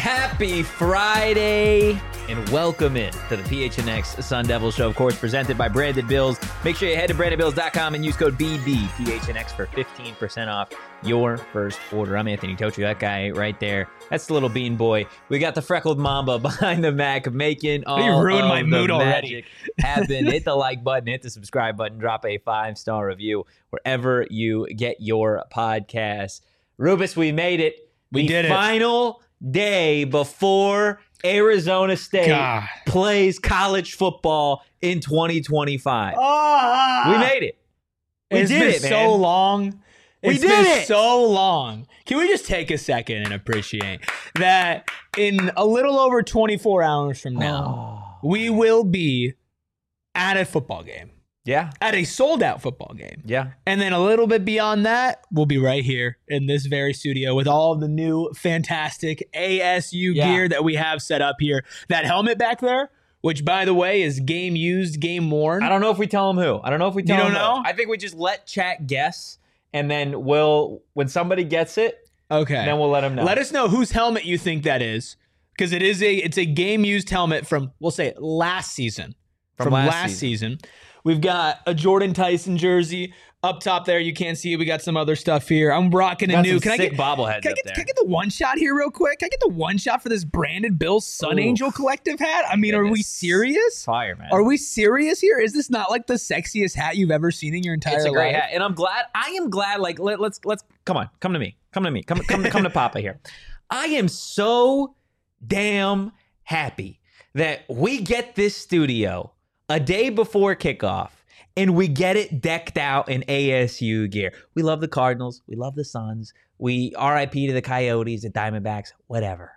Happy Friday, and welcome in to the PHNX Sun Devil Show, of course, presented by Branded Bills. Make sure you head to brandedbills.com and use code BBPHNX for 15% off your first order. I'm Anthony Tochi, that guy right there. That's the little bean boy. We got the freckled mamba behind the Mac making all you ruined my mood already happen. Hit the like button, hit the subscribe button, drop a 5-star review wherever you get your podcasts. Rubus, we made it. We did it. Final day before Arizona State plays college football in 2025. We made it. It's been so long. We did it. So long. Can we just take a second and appreciate that in a little over 24 hours from now, we will be at a football game. Yeah. At a sold-out football game. Yeah. And then a little bit beyond that, we'll be right here in this very studio with all of the new fantastic ASU gear that we have set up here. That helmet back there, which, by the way, is game used, game worn. I don't know if we tell them who. I don't know if we tell them. You don't know? I think we just let chat guess, and then when somebody gets it, then we'll let them know. Let us know whose helmet you think that is, because it's a game used helmet from, we'll say, last season. From last season. We've got a Jordan Tyson jersey up top there. You can't see it. We got some other stuff here. I'm rocking a new. Can I get bobbleheads Can I get the one shot here real quick? Can I get the one shot for this Branded Bills Sun Angel Collective hat? I mean, are we serious? Fire, man. Are we serious here? Is this not like the sexiest hat you've ever seen in your entire life? It's a great hat, and I am glad. Like, let's come on, come to me, come to Papa here. I am so damn happy that we get this studio a day before kickoff, and we get it decked out in ASU gear. We love the Cardinals. We love the Suns. We RIP to the Coyotes, the Diamondbacks, whatever.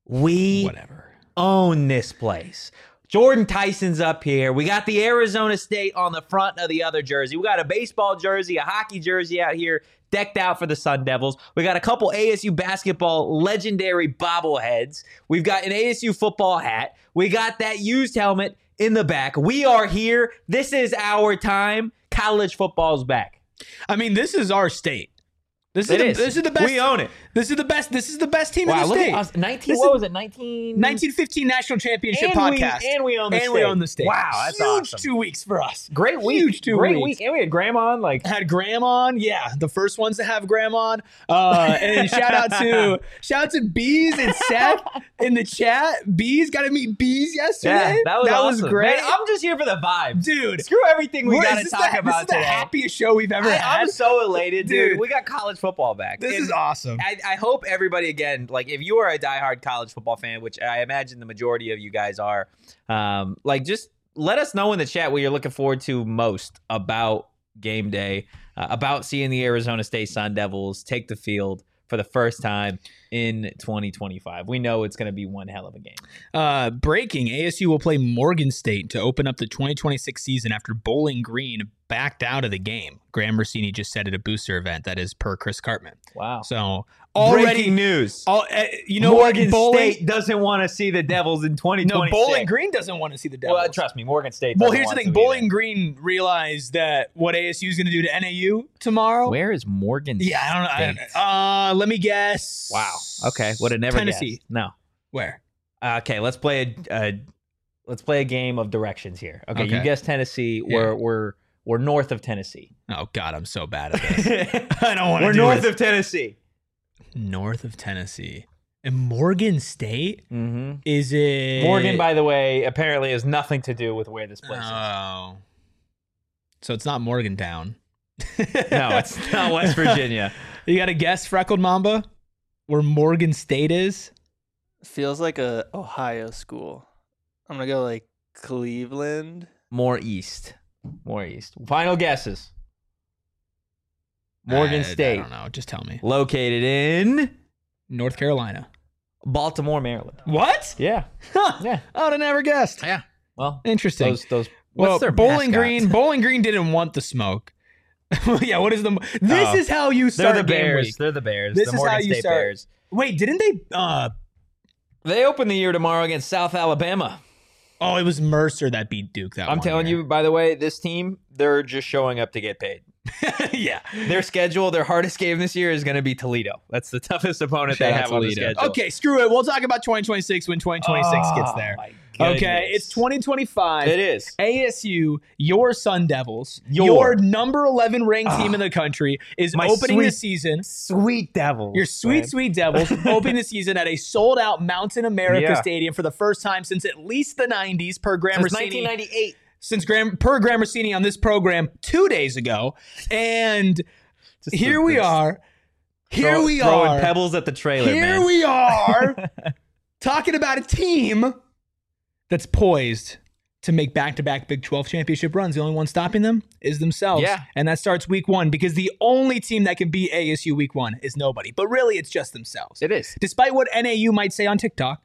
We own this place. Jordan Tyson's up here. We got the Arizona State on the front of the other jersey. We got a baseball jersey, a hockey jersey out here decked out for the Sun Devils. We got a couple ASU basketball legendary bobbleheads. We've got an ASU football hat. We got that used helmet in the back. We are here. This is our time. College football's back. I mean, this is our state. This is the best. We own it. This is the best. This is the best team in the state. What was it? 1915 National Championship podcast. And we own the state. We own the state. Wow, that's huge awesome. 2 weeks for us. Great week. Huge 2 Great weeks. week. And we had Graham on. Had Graham on. Yeah, the first ones to have Graham on. And shout out to Bees and Seth in the chat. Bees got to meet Bees yesterday. Yeah, that was awesome. Was great. Man, I'm just here for the vibes, dude. Screw everything we got to talk about today. This is the happiest show we've ever had. I'm so elated, dude. We got college football back. This is awesome. I hope everybody, again, like if you are a diehard college football fan, which I imagine the majority of you guys are, just let us know in the chat what you're looking forward to most about game day, about seeing the Arizona State Sun Devils take the field for the first time in 2025. We know it's going to be one hell of a game. Breaking, ASU will play Morgan State to open up the 2026 season after Bowling Green backed out of the game. Graham Rossini just said at a booster event, that is per Chris Cartman. Wow. So breaking news. Morgan State doesn't want to see the Devils in 2026. No, Bowling Green doesn't want to see the Devils. Well, trust me, Morgan State Well, here's the thing. Bowling Green realized that what ASU is going to do to NAU tomorrow. Where is Morgan State? Yeah, I don't know. Let me guess. Wow. Okay. Would have never Tennessee. Guessed. No. Where? Okay, let's play a game of directions here. Okay. You guessed Tennessee. Yeah. We're north of Tennessee. Oh God, I'm so bad at this. I don't want to. We're north of Tennessee. North of Tennessee. And Morgan State? Mm-hmm. Is it... Morgan, by the way, apparently has nothing to do with where this place is. Oh. So it's not Morgantown. No, it's not West Virginia. You got to guess, Freckled Mamba, where Morgan State is? Feels like a Ohio school. I'm going to go like Cleveland. More east. Final guesses. Morgan State. I don't know. Just tell me. Located in North Carolina. Baltimore, Maryland. What? Yeah. Yeah. I would have never guessed. Yeah. Well, interesting. Those. What's their Bowling mascot? Green. Bowling Green didn't want the smoke. Yeah. What is the? This is how you start. They're the game Bears. week. They're the Bears. This the is Morgan how you State start. Bears. Wait, didn't they? They open the year tomorrow against South Alabama. Oh, it was Mercer that beat Duke. I'm telling you, by the way, this team, they're just showing up to get paid. Yeah. Their schedule, their hardest game this year is going to be Toledo. That's the toughest opponent Shout they out have on the Toledo. schedule. Okay, screw it. We'll talk about 2026 when 2026 gets there. My Okay, goodness. it's 2025. It is. ASU, your Sun Devils, Your. your number 11 ranked team in the country, is My opening the sweet- season. Sweet Devils. Your sweet Devils opening the season at a sold-out Mountain America Yeah. Stadium for the first time since at least the 90s per Graham Since Rossini. 1998. Per Graham Rossini on this program 2 days ago. And here we are. Throwing pebbles at the trailer, Here man. we are talking about a team that's poised to make back-to-back Big 12 championship runs. The only one stopping them is themselves. Yeah. And that starts week 1 because the only team that can beat ASU week 1 is nobody. But really, it's just themselves. It is. Despite what NAU might say on TikTok,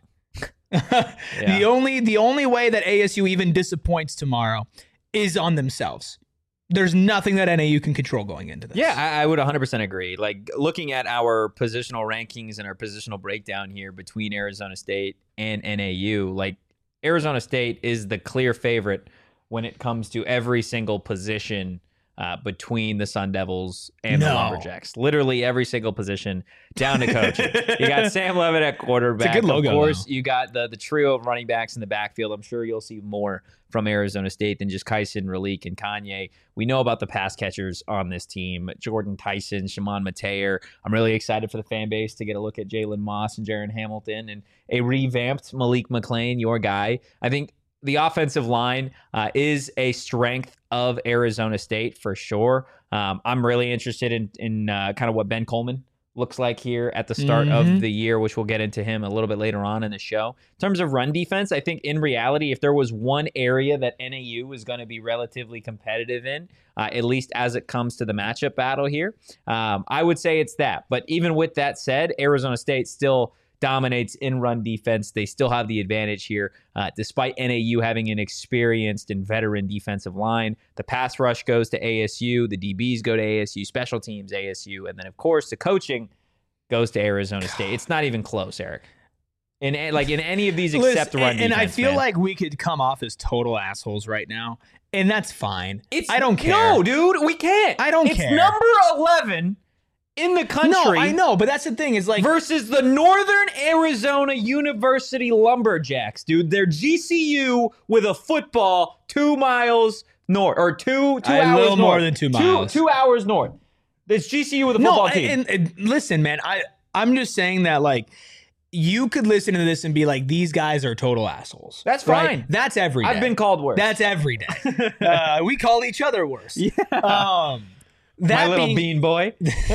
the only way that ASU even disappoints tomorrow is on themselves. There's nothing that NAU can control going into this. Yeah, I would 100% agree. Like, looking at our positional rankings and our positional breakdown here between Arizona State and NAU, like, Arizona State is the clear favorite when it comes to every single position between the Sun Devils and the Lumberjacks. Literally every single position down to coaching. You got Sam Levitt at quarterback. It's a good logo, of course, though. you got the trio of running backs in the backfield. I'm sure you'll see more from Arizona State than just Kyson, Raleek, and Kanye. We know about the pass catchers on this team. Jordan Tyson, Shimon Mateer. I'm really excited for the fan base to get a look at Jalen Moss and Jaron Hamilton and a revamped Malik McClain, your guy. I think the offensive line is a strength of Arizona State for sure. I'm really interested in kind of what Ben Coleman looks like here at the start of the year, which we'll get into him a little bit later on in the show. In terms of run defense, I think in reality, if there was one area that NAU is going to be relatively competitive in, at least as it comes to the matchup battle here, I would say it's that. But even with that said, Arizona State still dominates in run defense. They still have the advantage here, despite NAU having an experienced and veteran defensive line. The pass rush goes to ASU. The DBs go to ASU. Special teams, ASU. And then, of course, the coaching goes to Arizona State. It's not even close, Eric. In any of these except run defense. And I feel man. like we could come off as total assholes right now, and that's fine. I don't care. No, dude, we can't. I don't care. It's number 11 in the country. No, I know, but that's the thing is like versus the Northern Arizona University Lumberjacks, dude. They're GCU with a football 2 miles north, or two hours a little north. more than 2 miles. 2 hours north. It's GCU with a football team. And listen, man, I'm just saying that like you could listen to this and be like, these guys are total assholes. That's right? fine. That's every day. I've been called worse. That's every day. We call each other worse. Yeah. My little bean boy.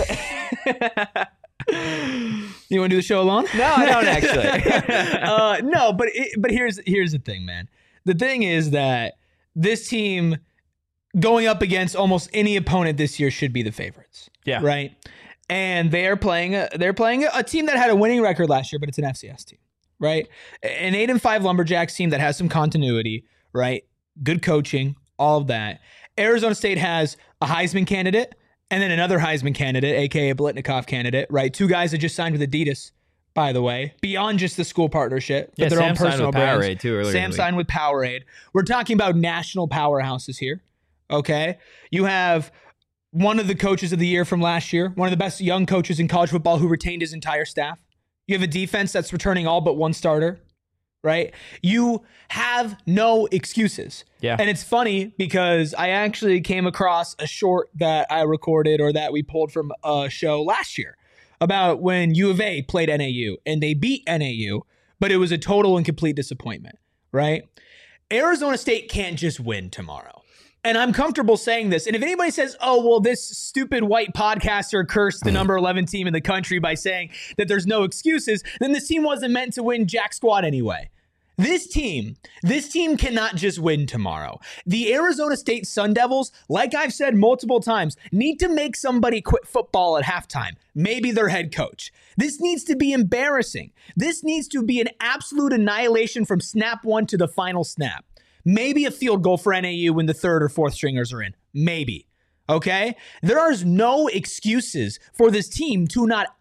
You want to do the show alone? No, I don't actually. No, but here's the thing, man. The thing is that this team going up against almost any opponent this year should be the favorites. Yeah. Right. And they're playing a team that had a winning record last year, but it's an FCS team, right? An 8-5 Lumberjacks team that has some continuity, right? Good coaching, all of that. Arizona State has a Heisman candidate and then another Heisman candidate, aka a Blitnikoff candidate, right? 2 guys that just signed with Adidas, by the way, beyond just the school partnership, but their own personal brands. Powerade too earlier. Sam signed with Powerade. We're talking about national powerhouses here. Okay, you have one of the coaches of the year from last year, one of the best young coaches in college football who retained his entire staff. You have a defense that's returning all but one starter. Right? You have no excuses. Yeah. And it's funny because I actually came across a short that I recorded or that we pulled from a show last year about when U of A played NAU and they beat NAU, but it was a total and complete disappointment, right? Arizona State can't just win tomorrow. And I'm comfortable saying this. And if anybody says, oh, well, this stupid white podcaster cursed the number 11 team in the country by saying that there's no excuses, then this team wasn't meant to win jack squat anyway. This team cannot just win tomorrow. The Arizona State Sun Devils, like I've said multiple times, need to make somebody quit football at halftime. Maybe their head coach. This needs to be embarrassing. This needs to be an absolute annihilation from snap one to the final snap. Maybe a field goal for NAU when the third or fourth stringers are in. Maybe. Okay? There are no excuses for this team to not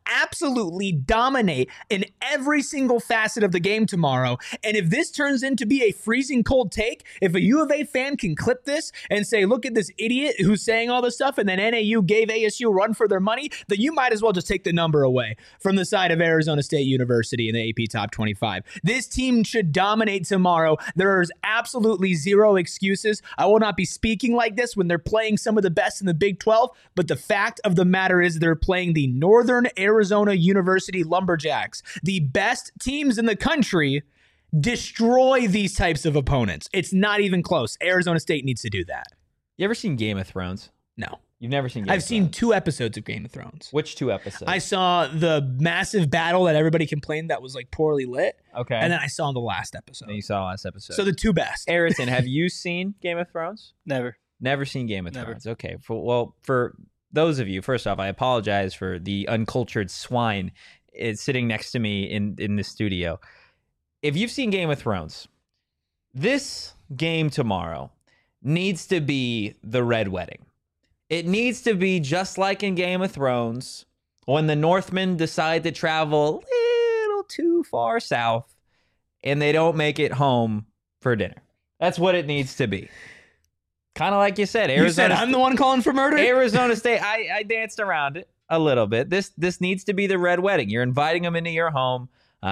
absolutely dominate in every single facet of the game tomorrow. And if this turns into be a freezing cold take, if a U of A fan can clip this and say, look at this idiot who's saying all this stuff, and then NAU gave ASU a run for their money, then you might as well just take the number away from the side of Arizona State University in the AP Top 25. This team should dominate tomorrow. There's absolutely zero excuses. I will not be speaking like this when they're playing some of the best in the Big 12, but the fact of the matter is they're playing the Northern Arizona University Lumberjacks, the best teams in the country. Destroy these types of opponents. It's not even close. Arizona State needs to do that. You ever seen Game of Thrones? No. You've never seen Game of Thrones? I've seen 2 episodes of Game of Thrones. Which 2 episodes? I saw the massive battle that everybody complained that was like poorly lit. Okay. And then I saw the last episode. And you saw the last episode. So the 2 best. Harrison, have you seen Game of Thrones? Never. Never seen Game of Never. Thrones. Okay. For those of you, first off, I apologize for the uncultured swine sitting next to me in the studio. If you've seen Game of Thrones, this game tomorrow needs to be the Red Wedding. It needs to be just like in Game of Thrones when the Northmen decide to travel a little too far south and they don't make it home for dinner. That's what it needs to be. Kind of like you said, Arizona. You said I'm the one calling for murder? Arizona State. I danced around it a little bit. This needs to be the Red Wedding. You're inviting them into your home,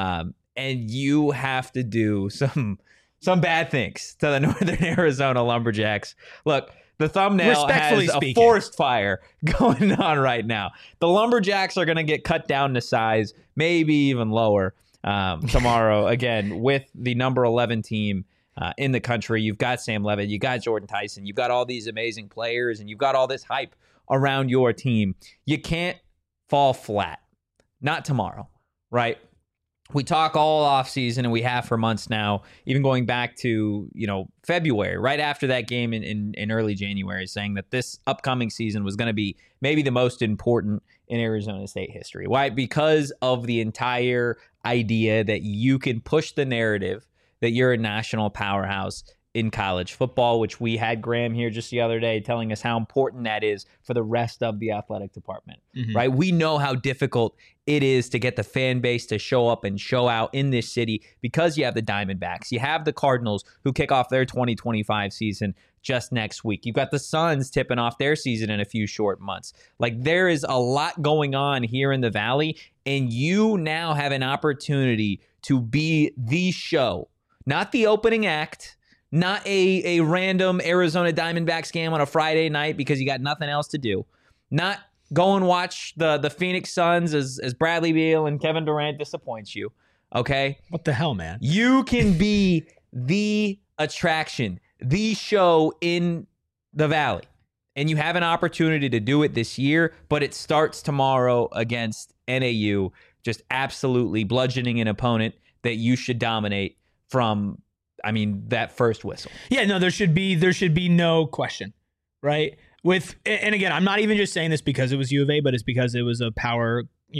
and you have to do some bad things to the Northern Arizona Lumberjacks. Look, the thumbnail has a forest fire going on right now. The Lumberjacks are going to get cut down to size, maybe even lower tomorrow, again, with the number 11 team in the country. You've got Sam Levitt, you got Jordan Tyson, you've got all these amazing players, and you've got all this hype around your team. You can't fall flat. Not tomorrow, right? We talk all off season, and we have for months now, even going back to, February, right after that game in early January, saying that this upcoming season was going to be maybe the most important in Arizona State history. Why? Because of the entire idea that you can push the narrative that you're a national powerhouse in college football, which we had Graham here just the other day telling us how important that is for the rest of the athletic department, right? We know how difficult it is to get the fan base to show up and show out in this city because you have the Diamondbacks. You have the Cardinals who kick off their 2025 season just next week. You've got the Suns tipping off their season in a few short months. Like, there is a lot going on here in the Valley, and you now have an opportunity to be the show, not the opening act, not a random Arizona Diamondbacks game on a Friday night because you got nothing else to do. Not go and watch the Phoenix Suns as Bradley Beal and Kevin Durant disappoints you. Okay? What the hell, man? You can be the attraction, the show in the Valley. And you have an opportunity to do it this year, but it starts tomorrow against NAU, just absolutely bludgeoning an opponent that you should dominate from that first whistle. Yeah, no, there should be no question, right? And again, I'm not even just saying this because it was U of A, but it's because it was a Power,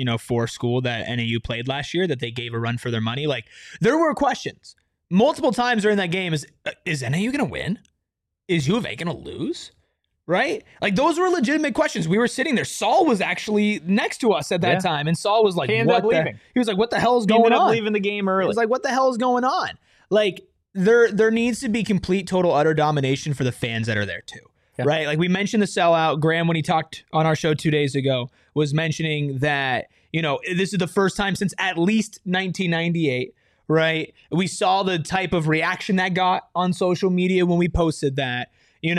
4 school that NAU played last year that they gave a run for their money. Like, there were questions multiple times during that game. Is NAU going to win? Is U of A going to lose? Right? Like, those were legitimate questions. We were sitting there. Saul was actually next to us at that time, and Saul was like, he was like, what the hell is going on? He ended up leaving the game early. He was like, what the hell is going on? Like, there needs to be complete, total, utter domination for the fans that are there too, right? Like, we mentioned the sellout. Graham, when he talked on our show 2 days ago, was mentioning that, this is the first time since at least 1998, right? We saw the type of reaction that got on social media when we posted that.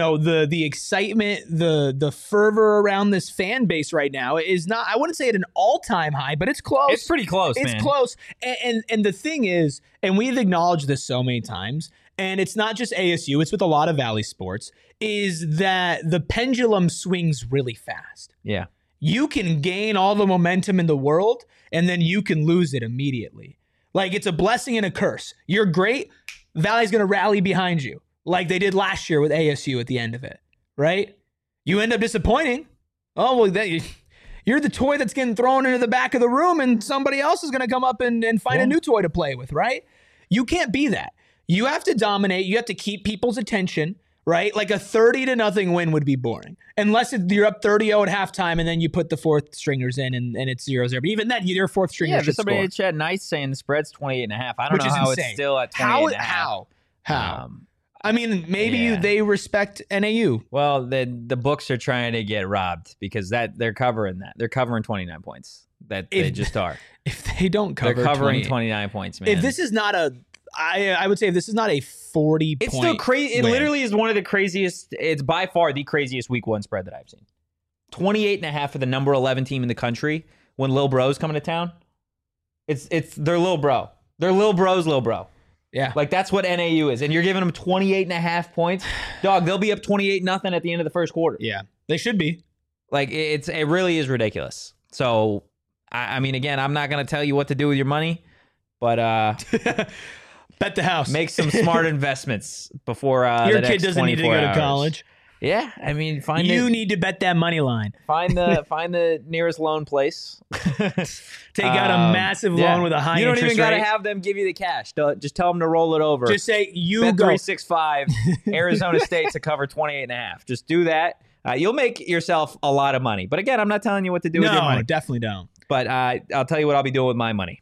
The excitement, the fervor around this fan base right now is not, I wouldn't say at an all-time high, but it's close. It's pretty close, man. It's close. And the thing is, and we've acknowledged this so many times, and it's not just ASU, it's with a lot of Valley sports, is that the pendulum swings really fast. Yeah. You can gain all the momentum in the world, and then you can lose it immediately. Like, it's a blessing and a curse. You're great, Valley's going to rally behind you, like they did last year with ASU at the end of it, right? You end up disappointing. Oh, well, you're the toy that's getting thrown into the back of the room, and somebody else is going to come up and find a new toy to play with, right? You can't be that. You have to dominate. You have to keep people's attention, right? Like a 30-0 win would be boring. Unless you're up 30-0 at halftime and then you put the fourth stringers in and it's 0-0. But even then, your fourth stringer should somebody score. in the chat nice saying the spread's 28.5. I don't know how it's still at 28.5. How? I mean, maybe they respect NAU. Well, the books are trying to get robbed because they're covering that. They're covering 29 points. They just are. If they don't cover, they're covering 29 points, man. If this is not I would say if this is not a 40 it's point still crazy. It win. literally is one of the craziest. It's by far the craziest week 1 spread that I've seen. 28.5 for the number 11 team in the country when Lil Bro's coming to town. It's their Lil Bro. They're Lil Bro's Lil Bro. Yeah. Like, that's what NAU is. And you're giving them 28.5 points. Dog, they'll be up 28-0 at the end of the first quarter. Yeah, they should be. Like, it really is ridiculous. So, I mean, again, I'm not going to tell you what to do with your money, but bet the house. Make some smart investments before your kid doesn't need to go to college. Yeah, I mean, need to bet that money line. Find the nearest loan place. Take out a massive loan with a high interest rate. You don't even got to have them give you the cash. Just tell them to roll it over. Just say Bet 365 Arizona State to cover 28.5. Just do that. You'll make yourself a lot of money. But again, I'm not telling you what to do with your money. No, definitely don't. But I'll tell you what I'll be doing with my money.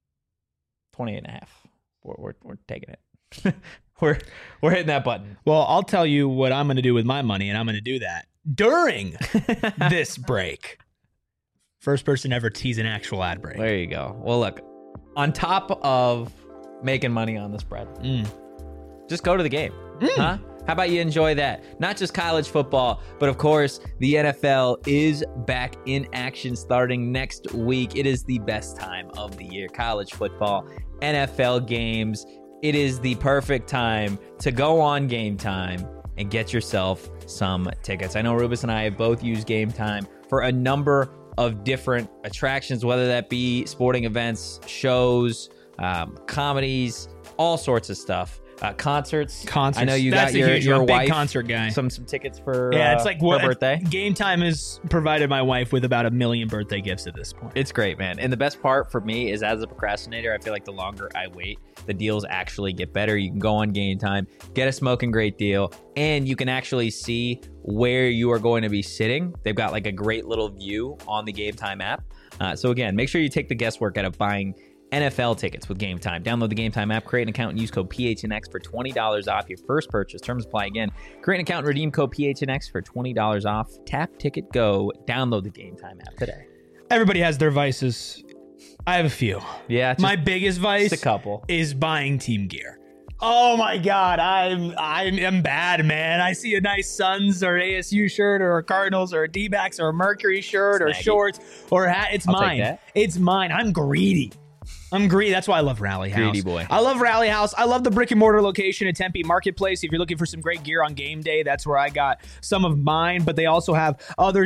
28.5. We're taking it. We're hitting that button. Well, I'll tell you what I'm going to do with my money, and I'm going to do that during this break. First person ever tease an actual ad break. There you go. Well, look, on top of making money on the spread, just go to the game. Huh? How about you enjoy that? Not just college football, but of course, the NFL is back in action starting next week. It is the best time of the year. College football, NFL games. It is the perfect time to go on Game Time and get yourself some tickets. I know Rubus and I have both used Game Time for a number of different attractions, whether that be sporting events, shows, comedies, all sorts of stuff. Concerts. I know you got your wife, big concert guy. Some tickets for it's like her birthday. Game Time has provided my wife with about 1 million birthday gifts at this point. It's great, man. And the best part for me is, as a procrastinator, I feel like the longer I wait, the deals actually get better. You can go on Game Time, get a smoking great deal, and you can actually see where you are going to be sitting. They've got like a great little view on the Game Time app. So again, make sure you take the guesswork out of buying NFL tickets with Game Time. Download the Game Time app, create an account, and use code PHNX for $20 off your first purchase. Terms apply again. Create an account and redeem code PHNX for $20 off. Tap, ticket, go. Download the Game Time app today. Everybody has their vices. I have a few. Yeah. My biggest vice just a couple. Is buying team gear. Oh my God, I'm bad, man. I see a nice Suns or ASU shirt or a Cardinals or a D-backs or a Mercury shirt or shorts or a hat. It's mine. It's mine. I'm greedy. That's why I love Rally House. Greedy boy. I love Rally House. I love the brick and mortar location at Tempe Marketplace. If you're looking for some great gear on game day, that's where I got some of mine. But they also have other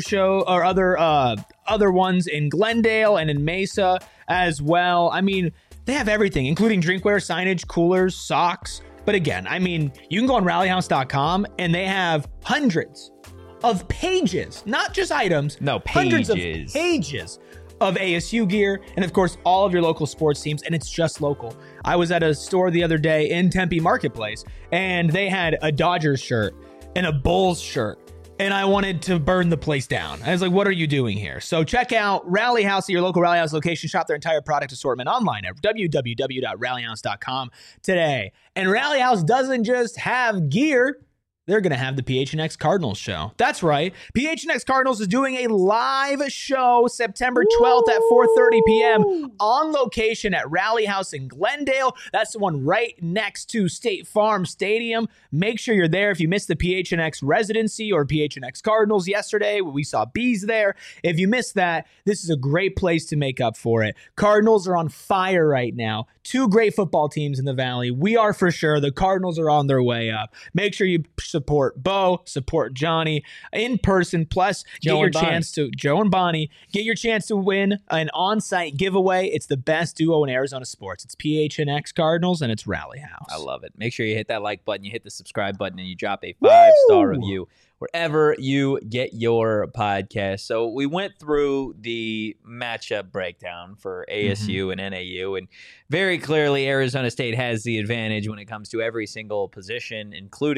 ones in Glendale and in Mesa as well. I mean, they have everything, including drinkware, signage, coolers, socks. But again, I mean, you can go on rallyhouse.com and they have hundreds of pages, not just items. No, pages. Hundreds of pages of ASU gear, and of course, all of your local sports teams, and it's just local. I was at a store the other day in Tempe Marketplace, and they had a Dodgers shirt and a Bulls shirt, and I wanted to burn the place down. I was like, what are you doing here? So check out Rally House at your local Rally House location. Shop their entire product assortment online at www.rallyhouse.com today. And Rally House doesn't just have gear. They're going to have the PHNX Cardinals show. That's right. PHNX Cardinals is doing a live show September 12th at 4:30 p.m. on location at Rally House in Glendale. That's the one right next to State Farm Stadium. Make sure you're there. If you missed the PHNX residency or PHNX Cardinals yesterday, we saw bees there. If you missed that, this is a great place to make up for it. Cardinals are on fire right now. 2 great football teams in the Valley. We are for sure. The Cardinals are on their way up. Make sure you support Bo, support Johnny in person. Plus, get your chance to Joe and Bonnie. Get your chance to win an on-site giveaway. It's the best duo in Arizona sports. It's PHNX Cardinals and it's Rally House. I love it. Make sure you hit that like button, you hit the subscribe button, and you drop a 5-star review wherever you get your podcast. So we went through the matchup breakdown for ASU and NAU, and very clearly Arizona State has the advantage when it comes to every single position, including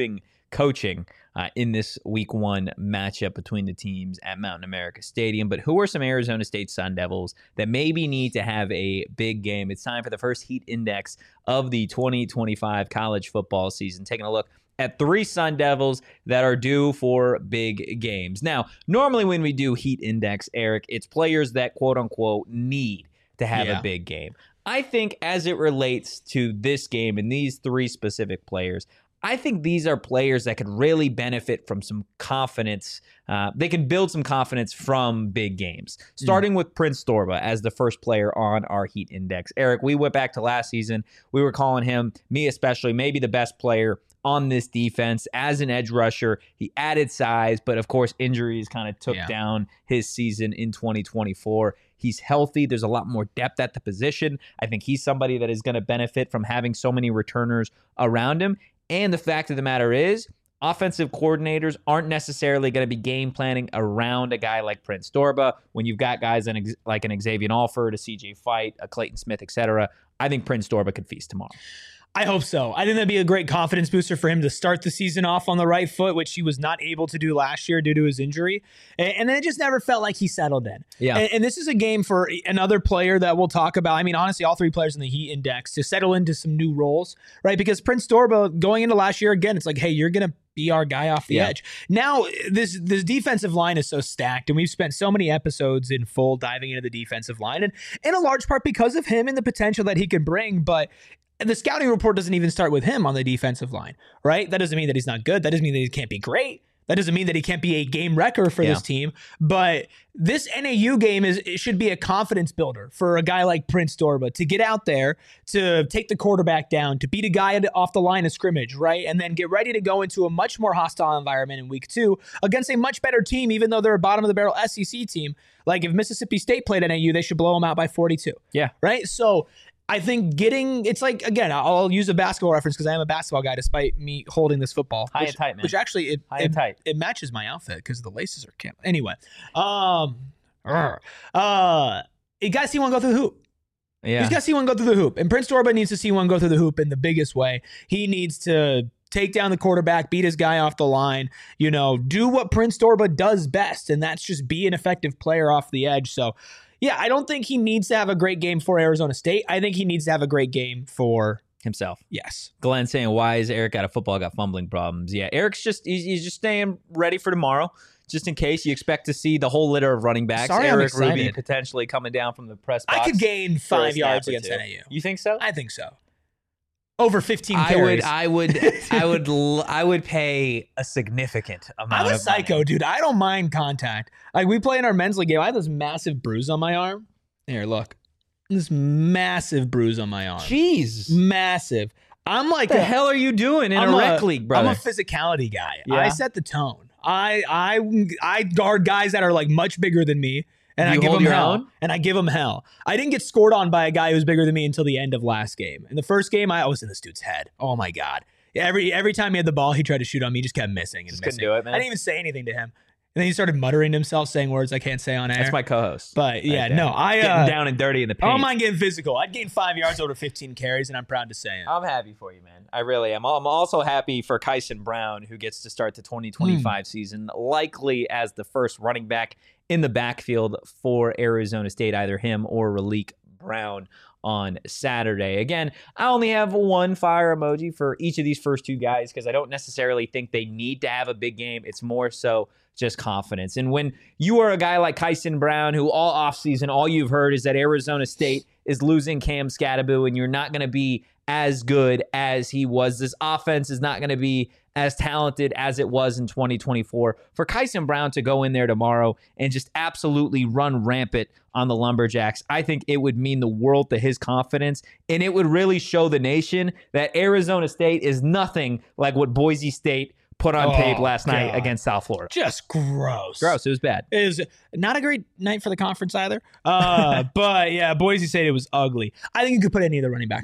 coaching in this week 1 matchup between the teams at Mountain America Stadium. But who are some Arizona State Sun Devils that maybe need to have a big game? It's time for the first heat index of the 2025 college football season. Taking a look at 3 Sun Devils that are due for big games. Now, normally when we do heat index, Eric, it's players that quote unquote need to have a big game. I think as it relates to this game and these 3 specific players, I think these are players that could really benefit from some confidence. They can build some confidence from big games, starting with Prince Dorbah as the first player on our heat index. Eric, we went back to last season. We were calling him, me especially, maybe the best player on this defense as an edge rusher. He added size, but of course injuries kind of took down his season in 2024. He's healthy. There's a lot more depth at the position. I think he's somebody that is going to benefit from having so many returners around him. And the fact of the matter is, offensive coordinators aren't necessarily going to be game planning around a guy like Prince Dorbah. When you've got guys like an Xavier Alford, a CJ Fight, a Clayton Smith, etc., I think Prince Dorbah could feast tomorrow. I hope so. I think that'd be a great confidence booster for him to start the season off on the right foot, which he was not able to do last year due to his injury. And then it just never felt like he settled in. Yeah. And this is a game for another player that we'll talk about. I mean, honestly, all 3 players in the Heat Index to settle into some new roles, right? Because Prince Dorbah, going into last year, again, it's like, hey, you're going to be our guy off the edge. Now, this defensive line is so stacked, and we've spent so many episodes in full diving into the defensive line, and in a large part because of him and the potential that he can bring, but the scouting report doesn't even start with him on the defensive line, right? That doesn't mean that he's not good. That doesn't mean that he can't be great. That doesn't mean that he can't be a game wrecker for this team. But this NAU game it should be a confidence builder for a guy like Prince Dorbah to get out there, to take the quarterback down, to beat a guy off the line of scrimmage, right? And then get ready to go into a much more hostile environment in week 2 against a much better team, even though they're a bottom of the barrel SEC team. Like if Mississippi State played at NAU, they should blow them out by 42. Yeah. Right? So I think it's like, again, I'll use a basketball reference because I am a basketball guy despite me holding this football. High and tight, man. Which actually, it matches my outfit because the laces are camp. Anyway, you got to see one go through the hoop. Yeah. He's got to see one go through the hoop. And Prince Dorbah needs to see one go through the hoop in the biggest way. He needs to take down the quarterback, beat his guy off the line, do what Prince Dorbah does best, and that's just be an effective player off the edge. So, yeah, I don't think he needs to have a great game for Arizona State. I think he needs to have a great game for himself. Yes. Glenn saying, why is Eric out of football? Got fumbling problems. Yeah, Eric's he's just staying ready for tomorrow, just in case you expect to see the whole litter of running backs. Sorry, Eric Ruby potentially coming down from the press box. I could gain 5 yards against NAU. You think so? I think so. Over 15 carries. I would pay a significant amount. I'm a psycho, money. Dude. I don't mind contact. Like we play in our men's league game. I have this massive bruise on my arm. Here, look. This massive bruise on my arm. Jeez. Massive. I'm like, what the hell are you doing in a rec league, brother? I'm a physicality guy. Yeah? I set the tone. I guard guys that are like much bigger than me. And I give him hell. And I give him hell. I didn't get scored on by a guy who was bigger than me until the end of last game. In the first game, I was in this dude's head. Oh my God. Every time he had the ball, he tried to shoot on me. He just kept missing and missing. Couldn't do it, man. I didn't even say anything to him. And then he started muttering to himself, saying words I can't say on air. That's my co-host. But yeah, no, getting down and dirty in the paint. I don't mind getting physical. I'd gain 5 yards over 15 carries, and I'm proud to say it. I'm happy for you, man. I really am. I'm also happy for Kyson Brown, who gets to start the 2025 season, likely as the first running back in the backfield for Arizona State, either him or Raleek Brown on Saturday. Again, I only have one fire emoji for each of these first 2 guys because I don't necessarily think they need to have a big game. It's more so just confidence. And when you are a guy like Kyson Brown, who all offseason, all you've heard is that Arizona State is losing Cam Scatterbo and you're not going to be as good as he was. This offense is not going to be as talented as it was in 2024. For Kyson Brown to go in there tomorrow and just absolutely run rampant on the Lumberjacks, I think it would mean the world to his confidence, and it would really show the nation that Arizona State is nothing like what Boise State put on tape last night against South Florida. Just gross. Gross. It was bad. It was not a great night for the conference either. But yeah, Boise State, it was ugly. I think you could put any of the running backs on here.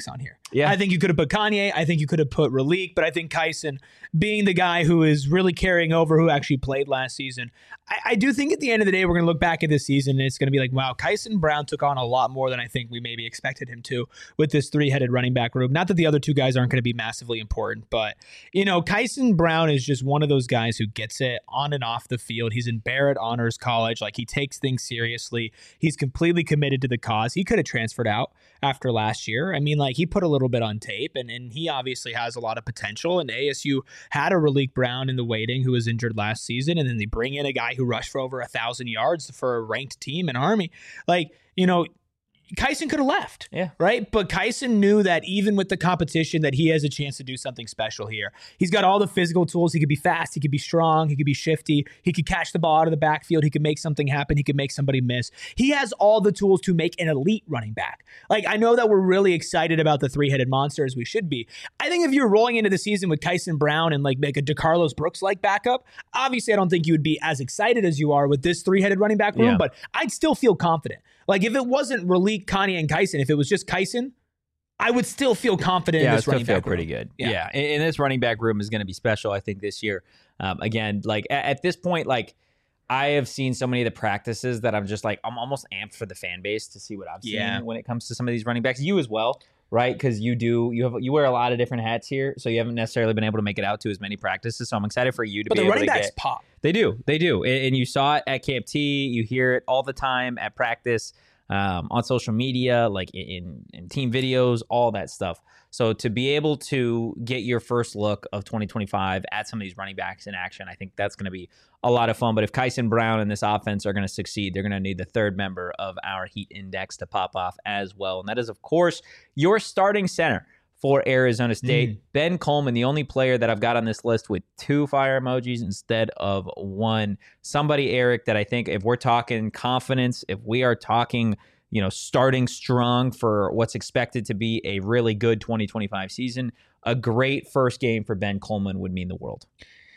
Yeah. I think you could have put Kanye. I think you could have put Raleek, but I think Kyson, being the guy who is really carrying over, who actually played last season, I do think at the end of the day, we're going to look back at this season and it's going to be like, wow, Kyson Brown took on a lot more than I think we maybe expected him to with this three-headed running back room. Not that the other two guys aren't going to be massively important, but, Kyson Brown is just one of those guys who gets it on and off the field. He's in Barrett Honors College. Like, he takes things seriously. He's completely committed to the cause. He could have transferred out after last year. I mean, like, he put a little bit on tape, and he obviously has a lot of potential. And ASU had a Raleek Brown in the waiting who was injured last season, and then they bring in a guy who rushed for over 1,000 yards for a ranked team in Army. Like, Kyson could have left, right? But Kyson knew that even with the competition that he has a chance to do something special here. He's got all the physical tools. He could be fast. He could be strong. He could be shifty. He could catch the ball out of the backfield. He could make something happen. He could make somebody miss. He has all the tools to make an elite running back. Like, I know that we're really excited about the three-headed monster, as we should be. I think if you're rolling into the season with Kyson Brown and like a DeCarlos Brooks-like backup, obviously I don't think you would be as excited as you are with this three-headed running back room, but I'd still feel confident. Like, if it wasn't Raleek, Kanye, and Kyson, if it was just Kyson, I would still feel confident in this running back room. feel pretty good. Yeah. And this running back room is going to be special, I think, this year. Again, like, at this point, like, I have seen so many of the practices that I'm just like, I'm almost amped for the fan base to see what I've seen when it comes to some of these running backs. You as well, right? Because you wear a lot of different hats here, so you haven't necessarily been able to make it out to as many practices. So I'm excited for you to be able to get. But the running backs pop. They do. And you saw it at Camp T. You hear it all the time at practice. On social media, like in team videos, all that stuff. So to be able to get your first look of 2025 at some of these running backs in action, I think that's going to be a lot of fun. But if Kyson Brown and this offense are going to succeed, they're going to need the third member of our Heat Index to pop off as well. And that is, of course, your starting center for Arizona State. Ben Coleman, the only player that I've got on this list with 2 fire emojis instead of 1. Somebody, Eric, that I think if we're talking confidence, if we are talking, starting strong for what's expected to be a really good 2025 season, a great first game for Ben Coleman would mean the world.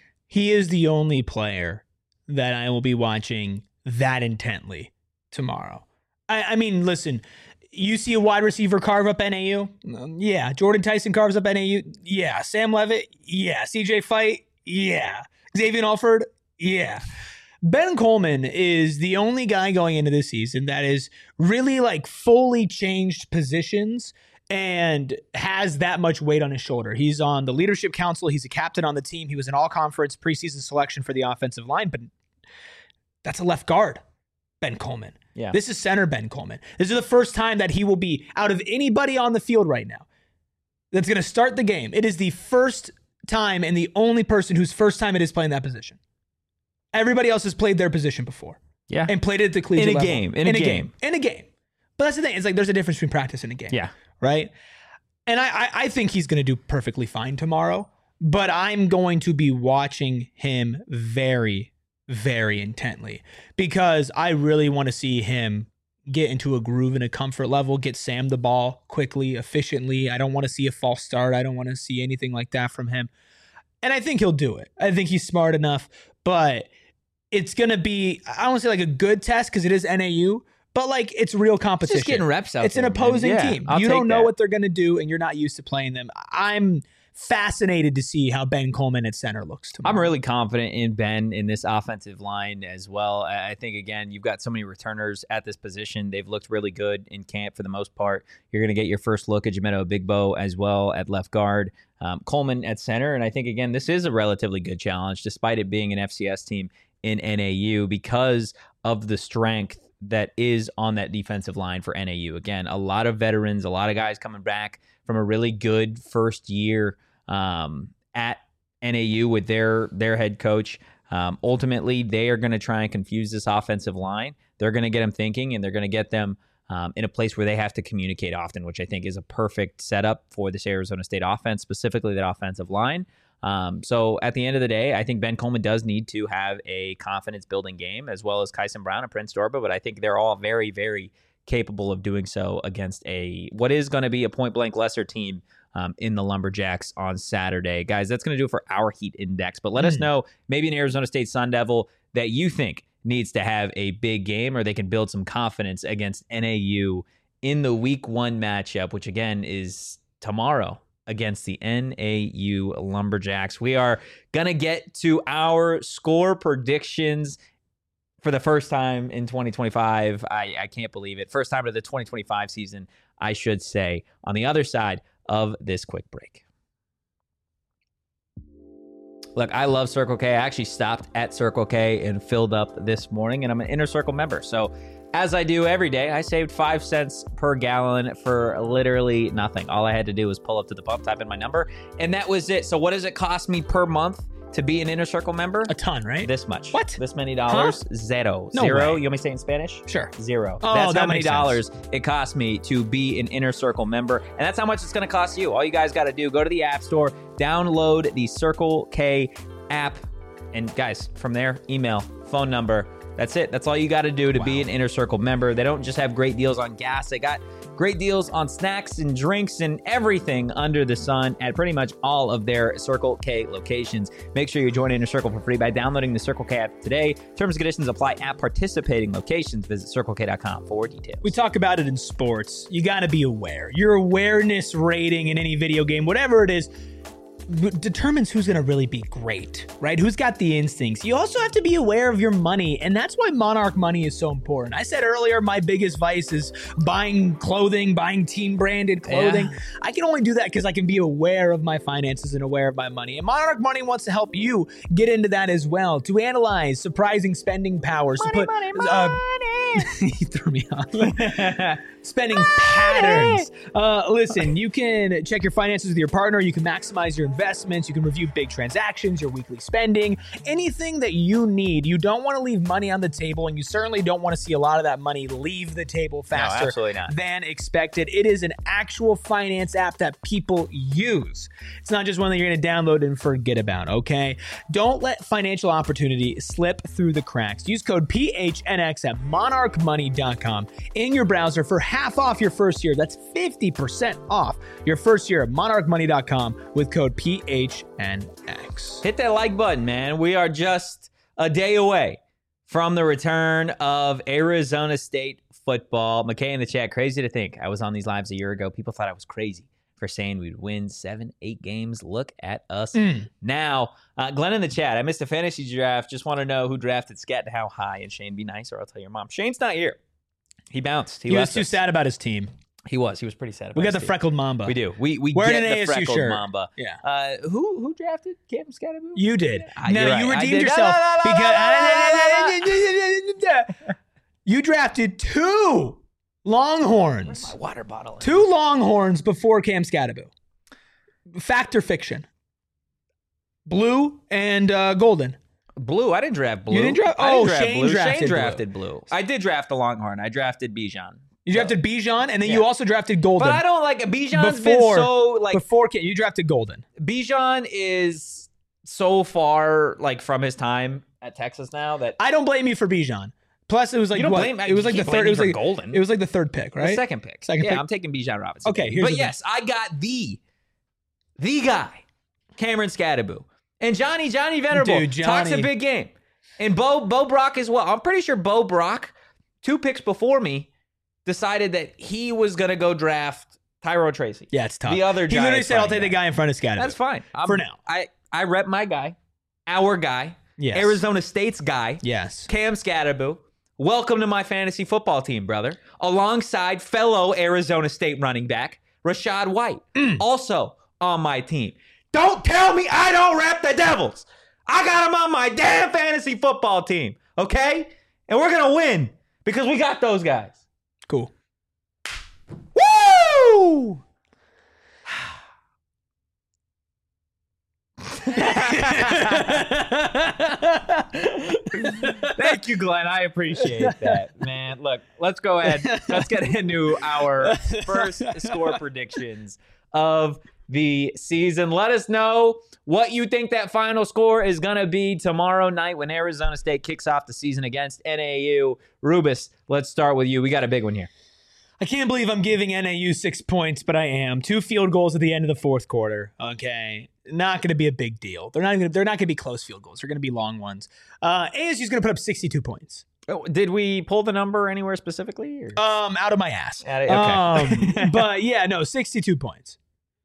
He is the only player that I will be watching that intently tomorrow. I mean, listen, you see a wide receiver carve up NAU? Yeah. Jordan Tyson carves up NAU? Yeah. Sam Levitt? Yeah. CJ Fight? Yeah. Xavier Alford? Yeah. Ben Coleman is the only guy going into this season that is really like fully changed positions and has that much weight on his shoulder. He's on the leadership council. He's a captain on the team. He was an all-conference preseason selection for the offensive line, but that's a left guard, Ben Coleman. Yeah. This is center Ben Coleman. This is the first time that he will be, out of anybody on the field right now, that's going to start the game. It is the first time and the only person whose first time it is playing that position. Everybody else has played their position before. Yeah. And played it at the collegiate level. In a game. But that's the thing. It's like there's a difference between practice and a game. Yeah. Right? And I think he's going to do perfectly fine tomorrow. But I'm going to be watching him very, very intently because I really want to see him get into a groove and a comfort level, get Sam the ball quickly, efficiently. I don't want to see a false start. I don't want to see anything like that from him. And I think he'll do it. I think he's smart enough, but it's going to be, I don't want to say like a good test because it is NAU, but like it's real competition. It's just getting reps out. It's there, an opposing man. team. I'll You don't know that. what they're going to do and you're not used to playing them. I'm fascinated to see how Ben Coleman at center looks tomorrow. I'm really confident in Ben in this offensive line as well. I think, again, you've got so many returners at this position. They've looked really good in camp for the most part. You're going to get your first look at Jamento Bigbo as well at left guard. Coleman at center. And I think, again, this is a relatively good challenge, despite it being an FCS team in NAU, because of the strength that is on that defensive line for NAU. Again, a lot of veterans, a lot of guys coming back from a really good first year at NAU with their head coach. Ultimately, they are going to try and confuse this offensive line. They're going to get them thinking, and they're going to get them in a place where they have to communicate often, which I think is a perfect setup for this Arizona State offense, specifically that offensive line. So at the end of the day, I think Ben Coleman does need to have a confidence-building game, as well as Kyson Brown and Prince Dorba, but I think they're all very, very capable of doing so against what is going to be a point-blank lesser team in the Lumberjacks on Saturday. Guys, that's going to do it for our Heat Index, but let us know, maybe an Arizona State Sun Devil that you think needs to have a big game, or they can build some confidence against NAU in the Week 1 matchup, which again is tomorrow against the NAU Lumberjacks. We are going to get to our score predictions for the first time in 2025. I can't believe it. First time of the 2025 season, I should say, on the other side of this quick break. Look, I love Circle K. I actually stopped at Circle K and filled up this morning, and I'm an Inner Circle member. So as I do every day, I saved 5 cents per gallon for literally nothing. All I had to do was pull up to the pump, type in my number, and that was it. So what does it cost me per month to be an Inner Circle member? A ton, right? This much. What? This many dollars? Huh? Zero. No Zero. way. You want me to say it in Spanish? Sure. Zero. Oh, that's that how many makes sense. dollars it cost me to be an Inner Circle member. And that's how much it's going to cost you. All you guys got to do, go to the App Store, download the Circle K app. And guys, from there, email, phone number. That's it. That's all you got to do to be an Inner Circle member. They don't just have great deals on gas. They got great deals on snacks and drinks and everything under the sun at pretty much all of their Circle K locations. Make sure you join Inner Circle for free by downloading the Circle K app today. Terms and conditions apply at participating locations. Visit circlek.com for details. We talk about it in sports. You got to be aware. Your awareness rating in any video game, whatever it is, determines who's going to really be great, right? Who's got the instincts. You also have to be aware of your money, and that's why Monarch Money is so important. I said earlier, my biggest vice is buying clothing, buying team-branded clothing. Yeah. I can only do that because I can be aware of my finances and aware of my money. And Monarch Money wants to help you get into that as well, to analyze surprising spending powers. Money. You threw me off. Spending patterns. Listen, you can check your finances with your partner. You can maximize your investments. You can review big transactions, your weekly spending, anything that you need. You don't want to leave money on the table, and you certainly don't want to see a lot of that money leave the table faster than expected. It is an actual finance app that people use. It's not just one that you're going to download and forget about, okay? Don't let financial opportunity slip through the cracks. Use code PHNX at monarchmoney.com in your browser for half off your first year. That's 50% off your first year at monarchmoney.com with code PHNX. Hit that like button, man. We are just a day away from the return of Arizona State football. McKay in the chat, crazy to think I was on these lives a year ago. People thought I was crazy for saying we'd win 7-8 games. Look at us now. Glenn in the chat, I missed a fantasy draft. Just want to know who drafted Scat and how high. And Shane, be nice or I'll tell your mom. Shane's not here. He bounced. He was too sad about his team. He was pretty sad about We got his the team. freckled Mamba. We do. We Wearing get an the ASU freckled shirt. Mamba. Yeah. Who drafted Cam Scatterboot? You did. You're right. You I redeemed did. yourself because you drafted 2 Longhorns. My water bottle. 2 Longhorns before Cam Scatterboot. Fact or fiction? Blue and golden. Blue. I didn't draft Blue. You didn't draft? I didn't draft Shane Blue. drafted Shane drafted Blue. I did draft the Longhorn. I drafted Bijan. You drafted Bijan, and then you also drafted golden. But I don't like Bijan's been so like before you drafted golden. Bijan is so far like from his time at Texas now that I don't blame you for Bijan. Plus, it was like you don't blame. It was like the third. It was like golden. It was like the third pick, right? The second pick. I'm taking Bijan Robinson. Okay, here's but yes, I got the guy, Cameron Scatterboot, and Johnny Venerable talks a big game, and Bo Brock as well. I'm pretty sure Bo Brock, 2 picks before me, decided that he was going to go draft Tyrone Tracy. Yeah, it's tough. The other he literally said, "I'll take the guy in front of Scatterboot." That's fine. For now. I rep my guy, our guy, yes. Arizona State's guy, yes, Cam Scatterboot. Welcome to my fantasy football team, brother. Alongside fellow Arizona State running back, Rashad White, also on my team. Don't tell me I don't rep the Devils. I got them on my damn fantasy football team, okay? And we're going to win because we got those guys. Cool. Woo! Thank you, Glenn. I appreciate that, man. Look, let's go ahead. Let's get into our first score predictions of the season. Let us know what you think that final score is going to be tomorrow night when Arizona State kicks off the season against NAU. Rubus, let's start with you. We got a big one here. I can't believe I'm giving NAU 6 points, but I am. 2 field goals at the end of the fourth quarter. Okay. Not going to be a big deal. They're not going to be close field goals. They're going to be long ones. ASU's going to put up 62 points. Oh, did we pull the number anywhere specifically? Or? Out of my ass. Okay. But yeah, no, 62 points.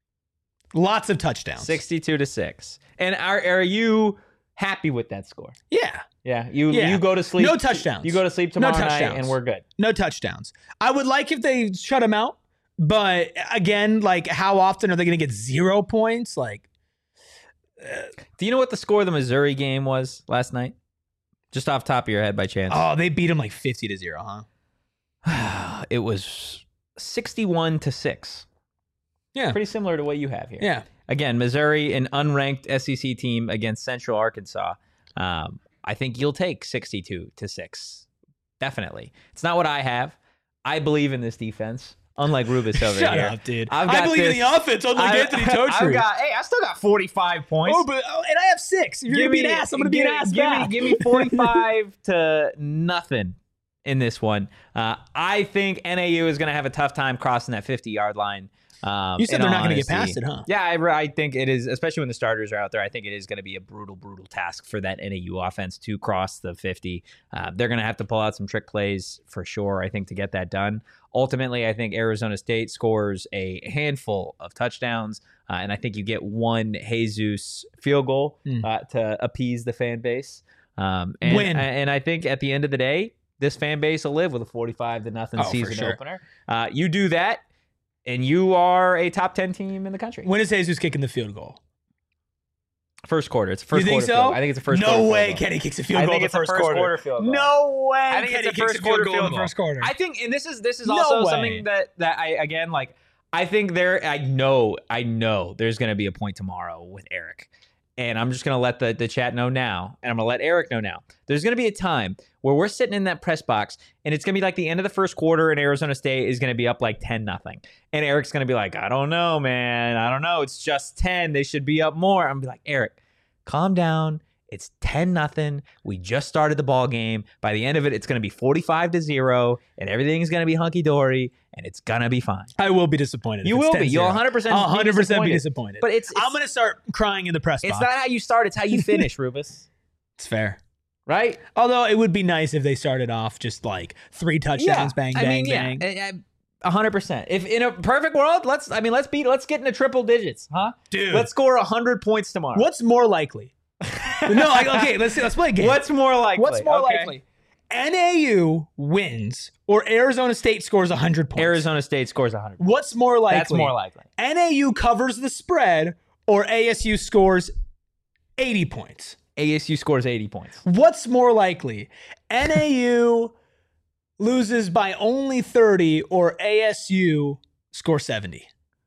Lots of touchdowns. 62-6. And are you happy with that score? Yeah. Yeah. You go to sleep. No touchdowns. You go to sleep tomorrow night and we're good. No touchdowns. I would like if they shut him out, but again, like how often are they going to get 0 points? Like, do you know what the score of the Missouri game was last night? Just off top of your head by chance. Oh, they beat him like 50-0, huh? It was 61-6. Yeah. Pretty similar to what you have here. Yeah. Again, Missouri, an unranked SEC team against Central Arkansas. I think you'll take 62-6. Definitely. It's not what I have. I believe in this defense. Unlike Rubus over here. Shut up, dude. I believe in the offense, unlike Anthony Totri. I still got 45 points. And I have 6. If you're going to be an ass, I'm going to be an ass back. Give me 45-0 in this one. I think NAU is going to have a tough time crossing that 50-yard line. You said they're not going to get past it, huh? Yeah, I think it is, especially when the starters are out there. I think it is going to be a brutal task for that NAU offense to cross the 50. They're going to have to pull out some trick plays for sure, I think, to get that done. Ultimately, I think Arizona State scores a handful of touchdowns, and I think you get one Jesus field goal to appease the fan base. And I think at the end of the day, this fan base will live with a 45-0 season opener. You do that, and you are a top 10 team in the country. When is Jesus kicking the field goal? First quarter. It's a first quarter. You think so? I think it's a first quarter. No way Kenny kicks a field goal in the first quarter. Field goal. No way I think Kenny it's a first kicks a field quarter goal in the first quarter. I think, and this is also something that I, again, like, I think I know there's going to be a point tomorrow with Eric. And I'm just going to let the chat know now, and I'm going to let Eric know now. There's going to be a time where we're sitting in that press box, and it's going to be like the end of the first quarter, and Arizona State is going to be up like 10-0. And Eric's going to be like, I don't know, man. I don't know. It's just 10. They should be up more. I'm going to be like, Eric, calm down. It's 10-0. We just started the ball game. By the end of it, it's going to be 45-0, and everything's going to be hunky-dory, and it's going to be fine. I will be disappointed. You will be. You'll 100% I'll 100% be disappointed. But I'm going to start crying in the press box. It's not how you start. It's how you finish, Rubus. It's fair. Right? Although it would be nice if they started off just like 3 touchdowns, bang, bang, bang. 100%. If in a perfect world, let's get into triple digits, huh? Dude. Let's score 100 points tomorrow. What's more likely? Okay, let's play a game. What's more likely? NAU wins or Arizona State scores 100 points? Arizona State scores 100 points. What's more likely? That's more likely. NAU covers the spread or ASU scores 80 points? ASU scores 80 points. What's more likely? NAU loses by only 30 or ASU scores 70?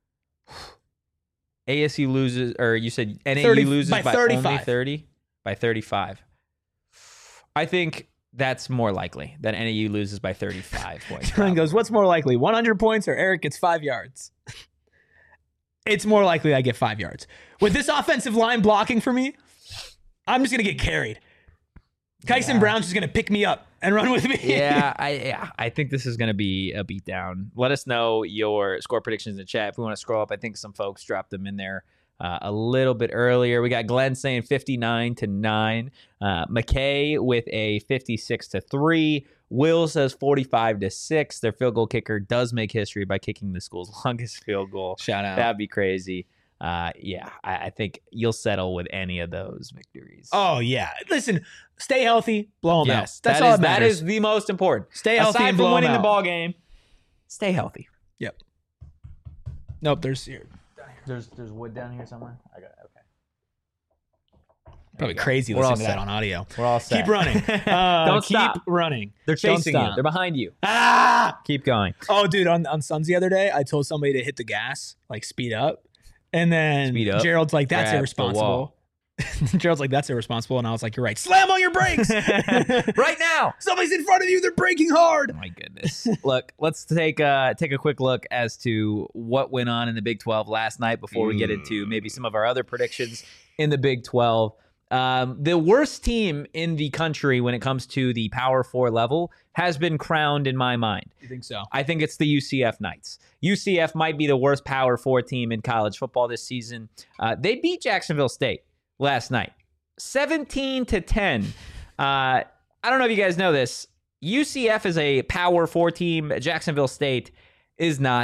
ASU loses, or you said NAU 30, loses by 35. Only 30? By 35. I think that's more likely that NAU loses by 35 points. John goes, what's more likely, 100 points or Eric gets 5 yards? It's more likely I get 5 yards. With this offensive line blocking for me, I'm just going to get carried. Kyson Brown's just going to pick me up and run with me. I think this is going to be a beatdown. Let us know your score predictions in the chat. If we want to scroll up, I think some folks dropped them in there a little bit earlier. We got Glenn saying 59-9. McKay with a 56-3. Will says 45-6. Their field goal kicker does make history by kicking the school's longest field goal. Shout out. That'd be crazy. I think you'll settle with any of those victories. Oh, yeah. Listen, stay healthy, blow them out. That's all that matters. That is the most important. Stay healthy and blow them out. Aside from winning the ball game, stay healthy. Yep. Nope, there's wood down here somewhere. I got it. Okay. Probably crazy listening to that on audio. We're all set. Keep running. Don't stop. Keep running. They're chasing you. They're behind you. Ah! Keep going. Oh, dude, on Suns the other day, I told somebody to hit the gas, like speed up. And then Gerald's like, that's irresponsible. Gerald's like, that's irresponsible. And I was like, you're right. Slam on your brakes. Right now. Somebody's in front of you. They're braking hard. Oh, my goodness. Look, let's take a quick look as to what went on in the Big 12 last night before we get into maybe some of our other predictions in the Big 12. The worst team in the country when it comes to the Power 4 level has been crowned in my mind. You think so? I think it's the UCF Knights. UCF might be the worst Power 4 team in college football this season. They beat Jacksonville State last night, 17-10. I don't know if you guys know this. UCF is a Power 4 team. Jacksonville State is not.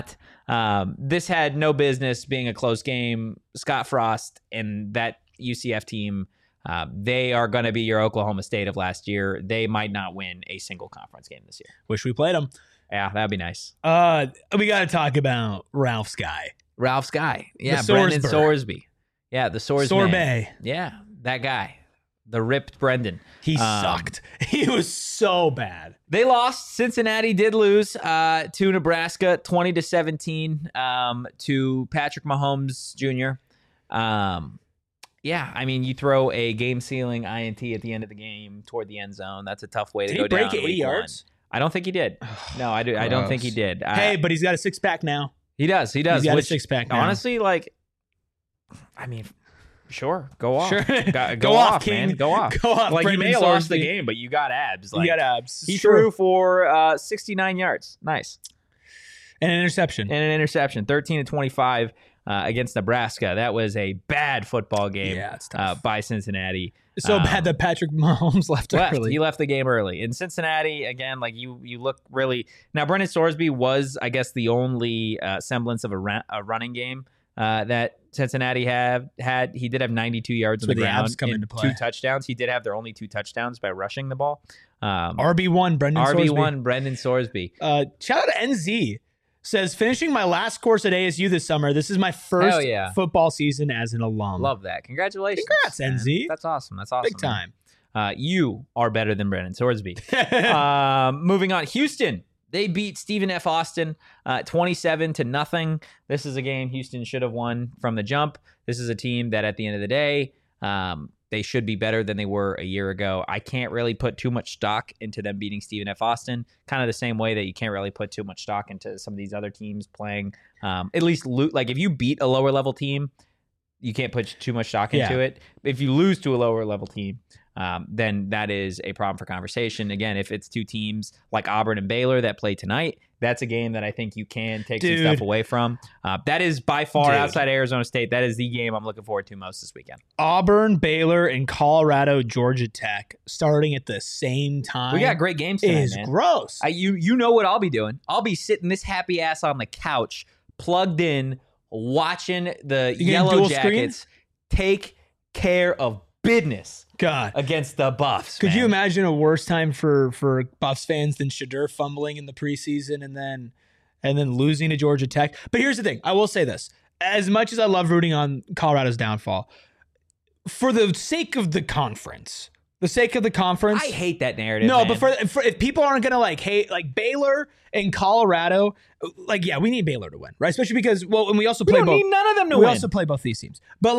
This had no business being a close game. Scott Frost and that UCF team, they are going to be your Oklahoma State of last year. They might not win a single conference game this year. Wish we played them. Yeah, that'd be nice. We got to talk about Ralph Skye. Ralph Skye. Yeah, The Brendan Sorsberg. Sorsby. Yeah, the Sorsby. Sorbet. Yeah, that guy. The ripped Brendan. He sucked. He was so bad. They lost. Cincinnati did lose to Nebraska 20-17 to Patrick Mahomes Jr. Yeah, I mean, you throw a game-sealing INT at the end of the game toward the end zone. That's a tough way to go down. Did he break 80 yards? I don't think he did. No, I don't think he did. Hey, but he's got a six-pack now. He does. He's got a six-pack now. Honestly, like, I mean, sure, go off. Sure. Go off, King. man. Go off. Go off. Like, you Brendan may have lost the Sorsby. game, but you got abs. Like, You got abs. he It's true. threw for 69 yards. Nice. And an interception. And an interception. 13-25 against Nebraska. That was a bad football game it's tough. by Cincinnati. So bad that Patrick Mahomes left early. He left the game early. In Cincinnati, again, like you look really now. Brendan Sorsby was, I guess, the only semblance of a running game that Cincinnati had. He did have 92 yards on the the ground abs come and into play. 2 touchdowns. He did have their only 2 touchdowns by rushing the ball. RB1, Brendan Sorsby. RB1, Brendan Sorsby. Shout out to NZ. Says, finishing my last course at ASU this summer. This is my first Hell yeah. football season as an alum. Love that. Congratulations. Congrats, man. NZ. That's awesome. That's awesome. Big time. You are better than Brendan Sorsby. Moving on. Houston. They beat Stephen F. Austin 27-0. This is a game Houston should have won from the jump. This is a team that at the end of the day, they should be better than they were a year ago. I can't really put too much stock into them beating Stephen F. Austin, kind of the same way that you can't really put too much stock into some of these other teams playing. At least, like if you beat a lower level team, you can't put too much stock into it. If you lose to a lower level team, then that is a problem for conversation. Again, if it's 2 teams like Auburn and Baylor that play tonight, that's a game that I think you can take some stuff away from. That is by far outside Arizona State. That is the game I'm looking forward to most this weekend. Auburn, Baylor, and Colorado, Georgia Tech starting at the same time. We got great games tonight, is man. gross. You know what I'll be doing. I'll be sitting this happy ass on the couch, plugged in, watching the Yellow dual screen? Jackets take care of business God. against the Buffs. Could man. you imagine a worse time for Buffs fans than Shadur fumbling in the preseason and then losing to Georgia Tech? But here's the thing. I will say this. As much as I love rooting on Colorado's downfall, for the sake of the conference, I hate that narrative. No, man. but for if people aren't gonna hate Baylor and Colorado, we need Baylor to win, right? Especially because and we also we play don't both. need none of them to We win. also play both these teams, but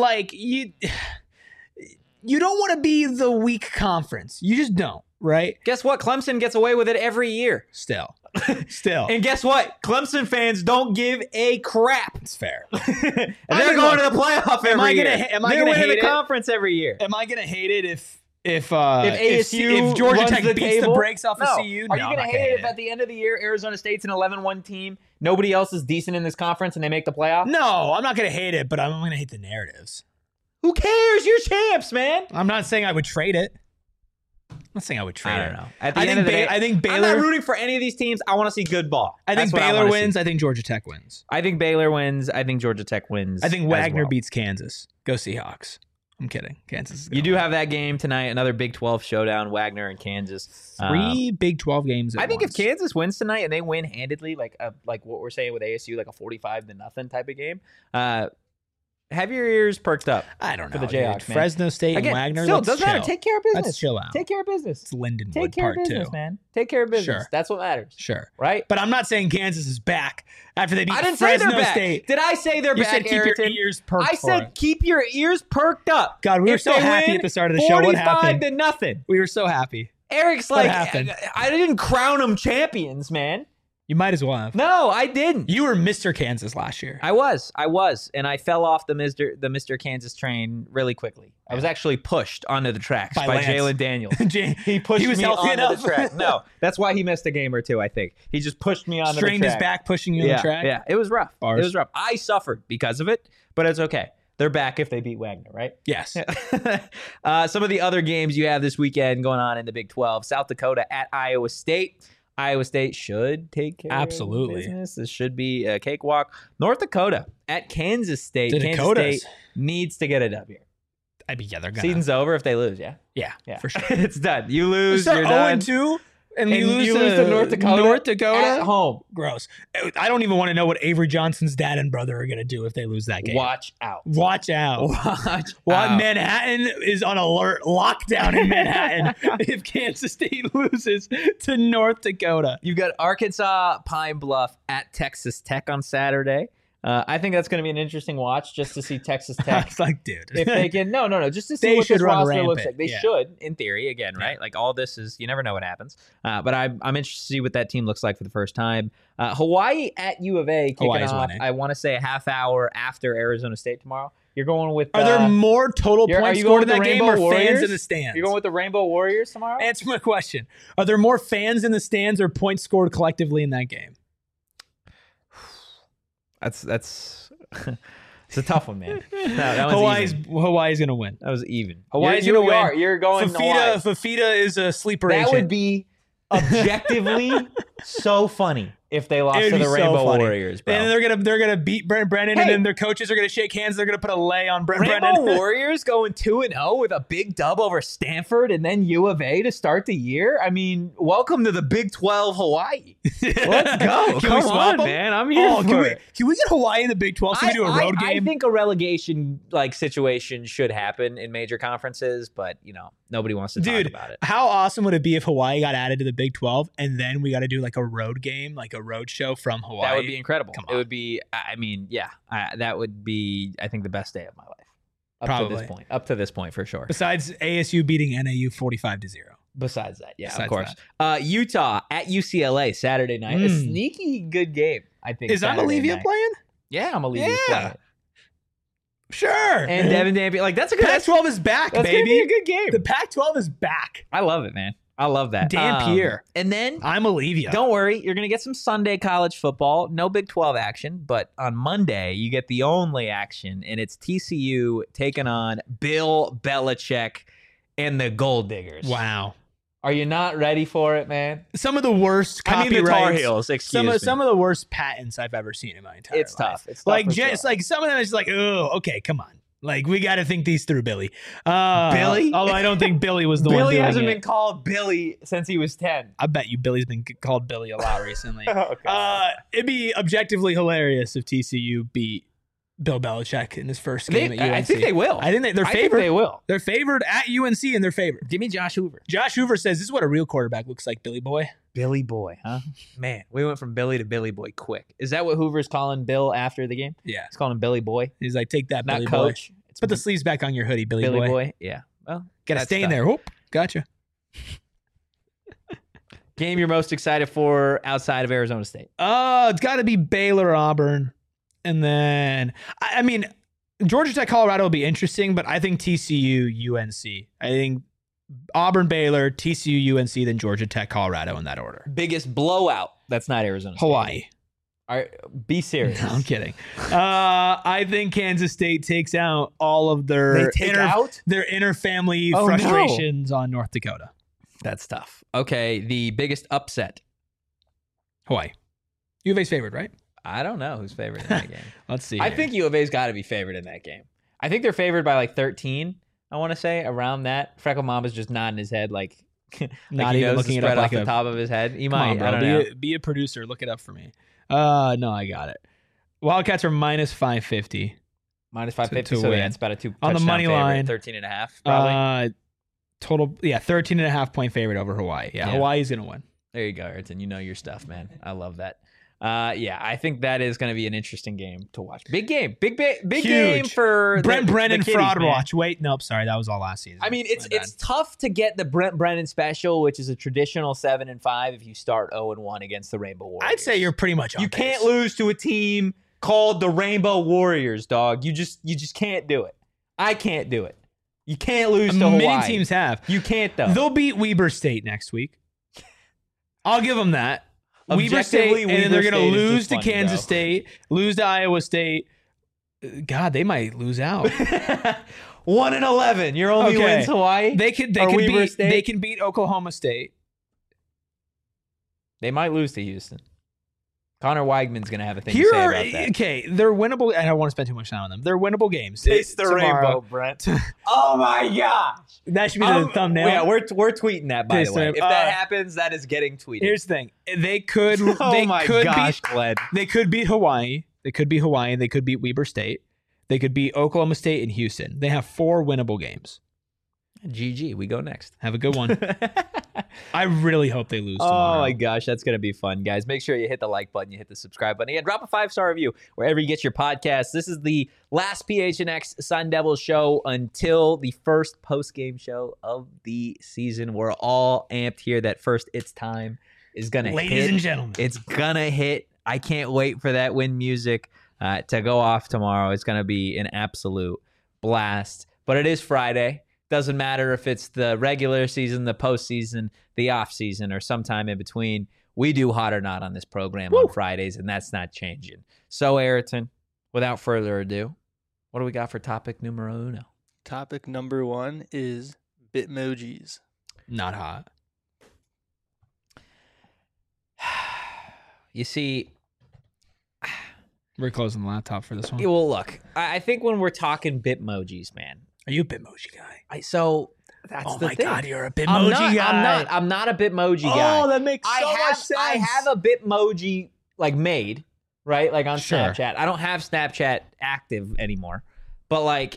you don't want to be the weak conference. You just don't, right? Guess what? Clemson gets away with it every year. Still. And guess what? Clemson fans don't give a crap. It's fair. And they're going to the playoff every year. Am I They're gonna winning hate the it? conference every year. Am I gonna hate it if ASU if Georgia runs Tech the beats table? the brakes off No. of CU? Are you going to hate it if at the end of the year Arizona State's an 11-1 team, nobody else is decent in this conference, and they make the playoff? No, I'm not gonna hate it, but I'm gonna hate the narratives. Who cares? You're champs, man. I'm not saying I would trade it. I'm not saying I would trade I it. don't know. At the I end think of the day, I think I'm Baylor. not rooting for any of these teams. I want to see good ball. I think That's what Baylor wanna wins. see. I think Georgia Tech wins. I think Baylor wins. I think Georgia Tech wins. I think as Wagner well. beats Kansas. Go Seahawks. I'm kidding. Kansas is You do have that game tonight, another Big 12 showdown, Wagner and Kansas. 3 Big 12 games. I think once. if Kansas wins tonight and they win handedly, like what we're saying with ASU, like a 45-0 type of game, have your ears perked up. I don't know for the dude. Jayhawks, man. Fresno State Again, and Wagner. still, let's doesn't matter. chill. Take care of business. Let's chill out. Take care of business. It's Lindenwood Take care of part business, 2. man. Take care of business. Sure. That's what matters. Sure. Right? But I'm not saying Kansas is back after they beat I didn't say Fresno they're back. State. Did I say they're You back, said keep Ayrton? your ears perked I for said it. keep your ears perked up. God, we were If so they happy win, at the start of the show. What happened? 45-0. We were so happy. Eric's What like, happened? I didn't crown them champions, man. You might as well have. No, I didn't. You were Mr. Kansas last year. I was, and I fell off the Mr. Kansas train really quickly. I was actually pushed onto the tracks by Lance. Jalen Daniels. He He was me healthy onto enough. the track. No, that's why he missed a game or two. I think he just pushed me onto Strained the his track. back pushing you Yeah, on the track. yeah, it was rough. Bars. It was rough. I suffered because of it, but it's okay. They're back if they beat Wagner, right? Yes. Some of the other games you have this weekend going on in the Big 12. South Dakota at Iowa State. Iowa State should take care Absolutely. of business. This should be a cakewalk. North Dakota at Kansas State. The Kansas Dakotas. State needs to get a W. I mean, yeah, they're gonna. Season's over if they lose, yeah? Yeah, Yeah. for sure. It's done. You lose, Start you're done. 0-2, and And you lose to North Dakota. North Dakota At home. Gross. I don't even want to know what Avery Johnson's dad and brother are gonna do if they lose that game. Watch out. Watch out. Watch Well, out. Manhattan is on alert, lockdown in Manhattan if Kansas State loses to North Dakota. You've got Arkansas Pine Bluff at Texas Tech on Saturday. I think that's going to be an interesting watch just to see Texas Tech. It's like, dude, If they can, no, just to see They what should this run roster looks rampant. like. They Yeah. should, in theory, again, right? Like all this is, you never know what happens. But I'm interested to see what that team looks like for the first time. Hawaii at U of A kicking Hawaii's off. winning. I want to say a half hour after Arizona State tomorrow. You're going with. are there more total are points you going scored in with that the game or Rainbow fans Warriors? in the stands? You're going with the Rainbow Warriors tomorrow? Answer my question. Are there more fans in the stands or points scored collectively in that game? That's it's a tough one, man. No, that one's even. Hawaii's gonna win. That was even. Hawaii's You're- gonna you win. are. You're going Hawaii. Fafita is a sleeper That agent. would be objectively so funny if they lost It'd to be the so Rainbow funny. Warriors, bro. And they're gonna beat Brent Brennan, Hey. and then their coaches are gonna shake hands. They're gonna put a lay on Brent Rainbow Brennan. Warriors going 2-0 with a big dub over Stanford and then U of A to start the year. I mean, welcome to the Big 12 Hawaii. Let's go. Can Come we swap on, them? man. I'm here Oh, for it. can we get Hawaii in the Big 12 so we do a road I game? think a relegation like situation should happen in major conferences, but nobody wants to talk Dude, about it. how awesome would it be if Hawaii got added to the Big 12 and then we got to do like a road game, like a road show from Hawaii? That would be incredible. Come It on. would be. I mean, yeah, that would be. I think the best day of my life. Up to Probably. this point. Up to this point, for sure. Besides ASU beating NAU 45-0. Besides that, yeah, Besides of course. Utah at UCLA Saturday night. A sneaky good game, I think. Is Saturday Amalivia night. playing? Yeah, Amalivia Yeah. playing. Sure. And Devin Dampier. Like that's a good. Pac-12 is back, That's gonna be baby. a good game. The Pac-12 is back. I love it, man. I love that. Dampier. And then I'm Olivia. don't worry, you're gonna get some Sunday college football. No Big 12 action, but on Monday you get the only action, and it's TCU taking on Bill Belichick and the Gold Diggers. Wow. Are you not ready for it, man? Some of the worst I mean, copyrights. the Tar Heels. Excuse me. Some of the worst patents I've ever seen in my entire It's life. tough. It's tough Like for just sure. like some of them is like, oh, okay, come on. Like we got to think these through, Billy. Billy? Although I don't think Billy was the one Billy doing hasn't it. been called Billy since he was 10. I bet you Billy's been called Billy a lot recently. Okay. It'd be objectively hilarious if TCU beat Bill Belichick in his first game at UNC. I think they will. I think they're I think favored. they will. They're favored at UNC, and they're favored. Give me Josh Hoover. Josh Hoover says, "This is what a real quarterback looks like, Billy boy." Billy Boy, huh? Man, we went from Billy to Billy Boy quick. Is that what Hoover's calling Bill after the game? Yeah, He's calling him Billy Boy, he's like, "Take that, not Billy coach. boy. It's Put the sleeves back on your hoodie, Billy, Billy boy. Boy. Yeah. Well, Got to that's stay in tough. there." Whoop, gotcha. Game you're most excited for outside of Arizona State? It's got to be Baylor, Auburn, and then I mean, Georgia Tech, Colorado will be interesting, but I think TCU, UNC. I think Auburn, Baylor, TCU, UNC, then Georgia Tech, Colorado in that order. Biggest blowout. That's not Arizona State. Hawaii. Be serious. No, I'm kidding. I think Kansas State takes out all of their their inner family Oh, no. frustrations on North Dakota. That's tough. Okay, the biggest upset. Hawaii. U of A's favored, right? I don't know who's favored in that game. Let's see. I here. think U of A's got to be favored in that game. I think they're favored by like 13. I want to say around that. Freckle Mamba's just nodding his head like Not he even knows looking the it up spread like off the a. top of his head. He Come might. on, bro. I don't know. Be a producer. Look it up for me. No, I got it. Wildcats are minus 550. Minus 550. to So win. yeah, it's about a two On the touchdown money favorite, line. 13.5 probably. Total, 13.5 point favorite over Hawaii. Yeah, Yeah. Hawaii's gonna win. There you go, Ayrton. You know your stuff, man. I love that. Yeah, I think that is going to be an interesting game to watch. Big game. Big game for Brent Brennan the kiddies, fraud man. watch. Wait, nope, sorry, that was all last season. I mean, My bad. it's tough to get the Brent Brennan special, which is a traditional 7-5 if you start 0-1 against the Rainbow Warriors. I'd say you're pretty much on You pace. can't lose to a team called the Rainbow Warriors, dog. You just can't do it. I can't do it. You can't lose to Hawaii. Many teams have. You can't though. They'll beat Weber State next week. I'll give them that. Weber State, Objectively, and then they're Weber going to State is lose just to funny, Kansas though. State, lose to Iowa State. God, they might lose out. 1-11. Your only Okay. wins Hawaii. They could Or Weber beat State? they can beat Oklahoma State. They might lose to Houston. Connor Weigman's going to have a thing to say about that. Okay, they're winnable. I don't want to spend too much time on them. They're winnable games. Taste the tomorrow. rainbow, Brent. Oh my gosh. That should be the thumbnail. Yeah, we're tweeting that, by the way. If that happens, that is getting tweeted. Here's the thing. They could Glenn. They could beat Hawaii. They could beat Hawaii. They could beat Weber State. They could beat Oklahoma State and Houston. They have 4 winnable games. GG, we go next. Have a good one. I really hope they lose tomorrow. Oh my gosh, that's going to be fun, guys. Make sure you hit the like button, you hit the subscribe button. Again, drop a 5-star review wherever you get your podcasts. This is the last PHNX Sun Devils show until the first post-game show of the season. We're all amped here. That first It's Time is going to hit. Ladies and gentlemen. It's going to hit. I can't wait for that win music to go off tomorrow. It's going to be an absolute blast. But it is Friday. Doesn't matter if it's the regular season, the postseason, the off season, or sometime in between. We do Hot or Not on this program on Fridays, and that's not changing. So, Ayrton, without further ado, what do we got for topic numero uno? Topic number 1 is Bitmojis. Not hot. You see, we're closing the laptop for this one. well, look, I think when we're talking Bitmojis, man. Are you a Bitmoji guy? So that's oh the my thing. God, you're a Bitmoji guy. I'm not a Bitmoji guy. Oh, that makes so much sense. I have a Bitmoji like made, right? Like on Sure. Snapchat. I don't have Snapchat active anymore. But like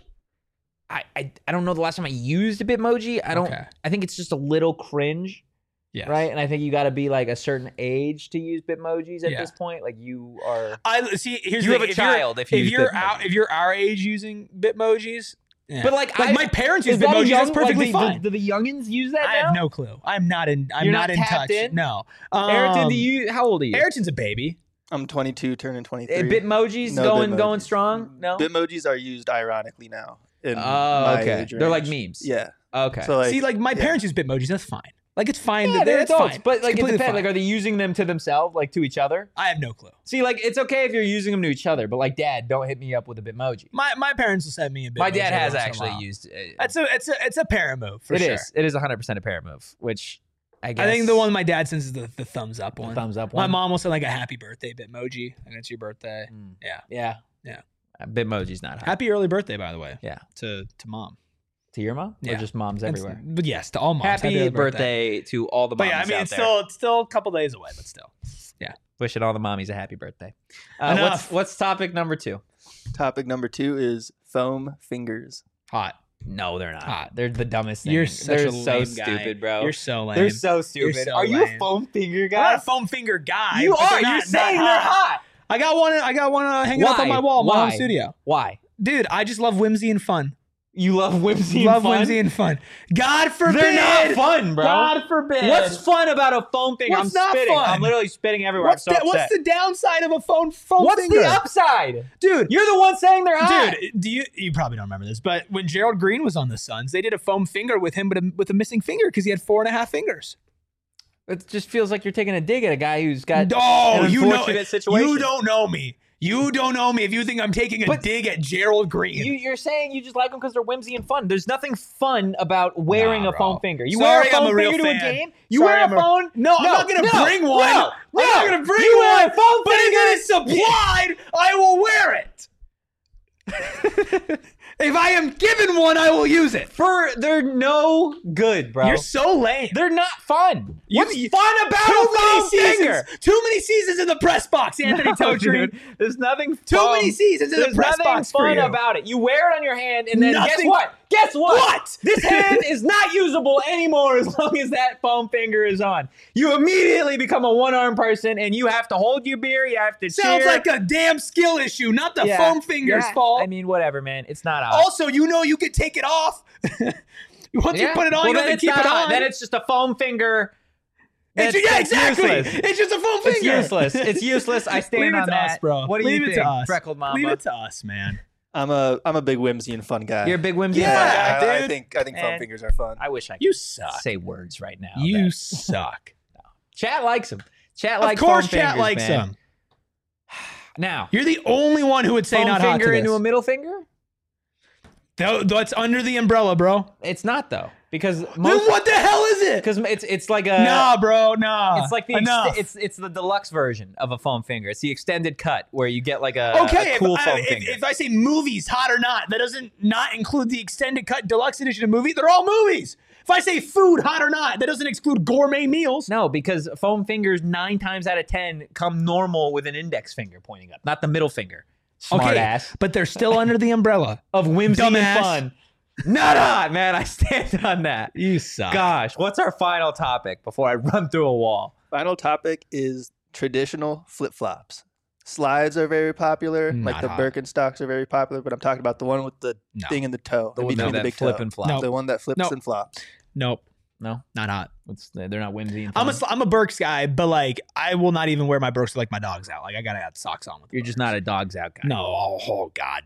I don't know the last time I used a Bitmoji. I think it's just a little cringe. Yes. Right? And I think you got to be like a certain age to use Bitmojis at this point. Like you are I see. Here's you the have thing. a child if you're if you're our age using Bitmojis. Yeah. But like my parents use Bitmojis. That's perfectly fine. Do the youngins use that I now? have no clue. I'm not in not in tapped touch. in? No. Ayrton, how old are you? Ayrton's a baby. I'm 22, turning 23. Bitmojis No going Bitmojis. strong? No. Bitmojis are used ironically now. In Oh, my okay. age They're like range. memes. Yeah. Okay. So like, See, like my parents use Bitmojis. That's fine. Like it's fine. yeah, they're that's adults, fine. but like It's it completely depends. fine. Like, are they using them to themselves, like to each other? I have no clue. See, like it's okay if you're using them to each other, but like, Dad, don't hit me up with a Bitmoji. My parents will send me a Bitmoji. My dad has once in a actually while. used. It's a parent move for sure. It is 100% a parent move, which I guess. I think the one my dad sends is the thumbs up one. thumbs up My one. mom will send like a happy birthday Bitmoji. Like it's your birthday. Yeah. Bitmoji's not hot. Happy early birthday, by the way. Yeah. To mom. To your mom? Or Yeah. just moms everywhere? But yes, to all moms. Happy early birthday to all the But moms yeah, I mean, out it's there. still a couple days away, but still. Wishing all the mommies a happy birthday. Enough. What's topic number 2? topic number 2 is foam fingers. Hot. No, they're not. Hot. They're the dumbest thing. You're such They're a so lame guy. stupid, bro. You're so lame. They're so stupid. You're so Are you a lame. foam finger I'm guy? not a foam finger guy. You but are. they're You're not saying they're hot. I got one hanging up on Why? my wall in my home Why? studio. Why? Dude, I just love whimsy and fun. You love whimsy Love and fun? whimsy and fun. God forbid. They're not fun, bro. God forbid. What's fun about a foam finger? What's I'm not spitting. fun? I'm literally spitting everywhere. What's I'm so what's upset. the downside of a foam What's finger? the upside? Dude, You're the one saying they're hot. Dude, you probably don't remember this, but when Gerald Green was on the Suns, they did a foam finger with him, but with a missing finger because he had 4.5 fingers. It just feels like you're taking a dig at a guy who's got No, an you know, unfortunate situation. you don't know me. You don't know me if you think I'm taking a dig at Gerald Green. You're saying you just like them because they're whimsy and fun. There's nothing fun about wearing Nah, a foam bro. finger. You Sorry, wear a foam I'm a real finger to a fan. game? You Sorry, wear I'm a phone? No, I'm not going to bring one. No, I'm not going to bring you one. wear a foam But if it is finger. supplied, I will wear it. If I am given one, I will use it. They're no good, bro. You're so lame. They're not fun. What's You- fun about Too a many foam seasons. finger? Too many seasons in the press box, Anthony No, Totri. dude. There's nothing Too fun. many seasons in the There's press nothing box for fun you. about it. You wear it on your hand, and then guess Nothing- what? Guess what? What? This hand is not usable anymore as long as that foam finger is on. You immediately become a one-arm person, and you have to hold your beer. You have to Sounds cheer. like a damn skill issue, not the Yeah, foam finger's yeah. fault. I mean, whatever, man. It's not odd. Also, you know you could take it off. Once you put it on, well, you then have to it's keep not it hot. on. Then it's just a foam finger. It's, That's- yeah, that's exactly. useless. It's just a foam It's finger. useless. It's useless. I stand Leave it on to that, us, bro. What do Leave you it think, to us. Freckled Mamba? Leave it to us, man. I'm a big whimsy and fun guy. You're a big whimsy Yeah, fan guy? I dude. think foam Man. fingers are fun. I wish I could You suck. say words right now. You that- suck. Chat likes him. Chat Of likes course, foam chat fingers, likes man. them. Now, You're the only one who would say foam not hot finger to this. into a middle finger? That's under the umbrella, bro. It's not though, because Then what the hell is it? because it's like a Nah, bro, nah. It's like it's the deluxe version of a foam finger. It's the extended cut where you get like a cool foam finger. If I say movies, hot or not, that doesn't not include the extended cut deluxe edition of movie. They're all movies. If I say food, hot or not, that doesn't exclude gourmet meals. No, because foam fingers 9 times out of 10 come normal with an index finger pointing up, not the middle finger. Smart ass. But they're still under the umbrella Of whimsy Dumbass. and fun. Nah, man, I stand on that. You suck. Gosh, what's our final topic before I run through a wall? Final topic is traditional flip-flops. Slides are very popular. Not like the hot. Birkenstocks are very popular, but I'm talking about the one with the thing in the toe. The in one between the that big flip toe. and flop. No. The one that flips Nope. and flops. Nope, No, not hot. they're not whimsy and I'm fun. a Birks guy, but like I will not even wear my Birks like my dog's out. Like I gotta have socks on with. You're just not a dog's out guy. No. Oh God,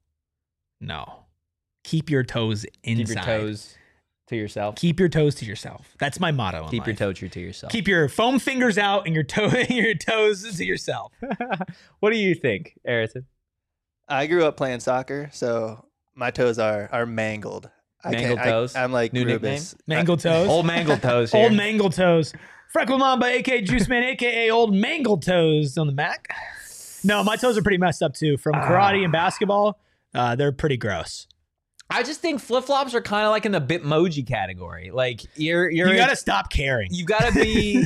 no. Keep your toes inside. Keep your toes to yourself. Keep your toes to yourself. That's my motto. In Keep your life. toe true to yourself. Keep your foam fingers out and your toes to yourself. What do you think, Harrison? I grew up playing soccer, so my toes are mangled. Mangled toes? I'm like New Rubus. Mangled toes. Old mangled toes here. Old mangled toes. Freckle Mamba, aka Juice Man, aka Old Mangled Toes on the Mac. No, my toes are pretty messed up too. From karate and basketball, they're pretty gross. I just think flip flops are kind of like in the Bitmoji category. Like you gotta stop caring. You gotta be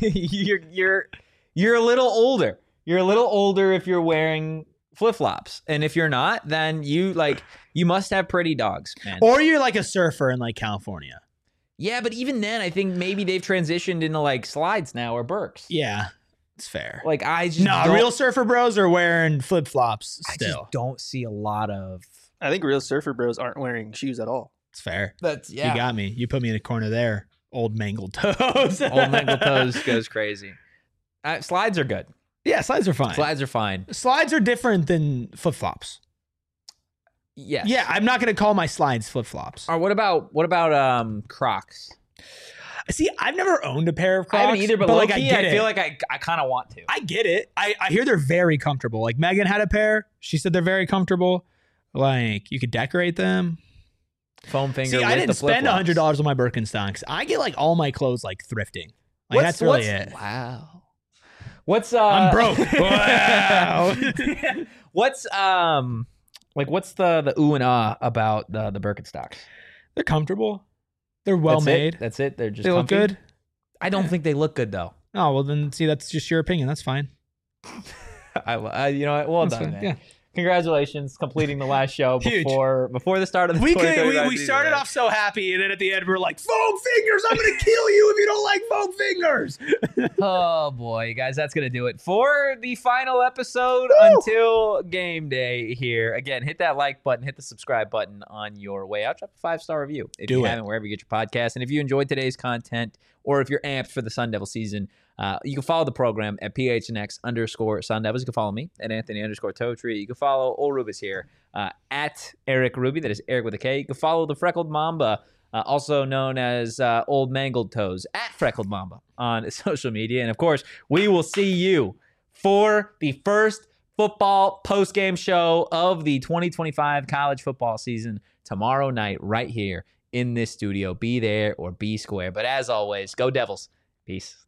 you're a little older. You're a little older if you're wearing flip flops, and if you're not, then you must have pretty dogs, man. Or you're like a surfer in like California. Yeah, but even then, I think maybe they've transitioned into like slides now or Birks. Yeah, it's fair. Like I just No, don't- real surfer bros are wearing flip flops I still. just don't see a lot of. I think real surfer bros aren't wearing shoes at all. It's fair. That's You got me. You put me in a corner there. Old mangled toes. Old mangled toes goes crazy. Slides are good. Yeah, slides are fine. Slides are fine. Slides are different than flip flops. Yes. Yeah, I'm not gonna call my slides flip flops. Or what about Crocs? See, I've never owned a pair of Crocs. I haven't either, but like low-key, I feel like I kind of want to. I get it. I hear they're very comfortable. Like Megan had a pair. She said they're very comfortable. Like you could decorate them. Foam finger. See, with I didn't the spend flip-flops. $100 on my Birkenstocks. I get like all my clothes like thrifting. Like that's really it. Wow. What's I'm broke. Wow. what's what's the ooh and ah about the Birkenstocks? They're comfortable. They're well made. That's it. They're just They look comfy? good. I don't think they look good though. Oh well, then see, that's just your opinion. That's fine. I you know what? Well That's done, fine. man. Yeah. Congratulations, completing the last show Huge. before the start of the We 2025 started season. off so happy, and then at the end we're like, foam fingers! I'm gonna kill you if you don't like foam fingers. Oh boy, guys, that's gonna do it for the final episode until game day here. Again, hit that like button, hit the subscribe button on your way out. Drop a 5-star review if you haven't, wherever you get your podcast. And if you enjoyed today's content, or if you're amped for the Sun Devil season, you can follow the program at PHNX_Sun Devils. You can follow me at Anthony_Totri. You can follow Old Rubis here at Eric Ruby. That is Eric with a K. You can follow the Freckled Mamba, also known as Old Mangled Toes, at Freckled Mamba on social media. And of course, we will see you for the first football post-game show of the 2025 college football season tomorrow night right here in this studio. Be there or be square. But as always, go Devils. Peace.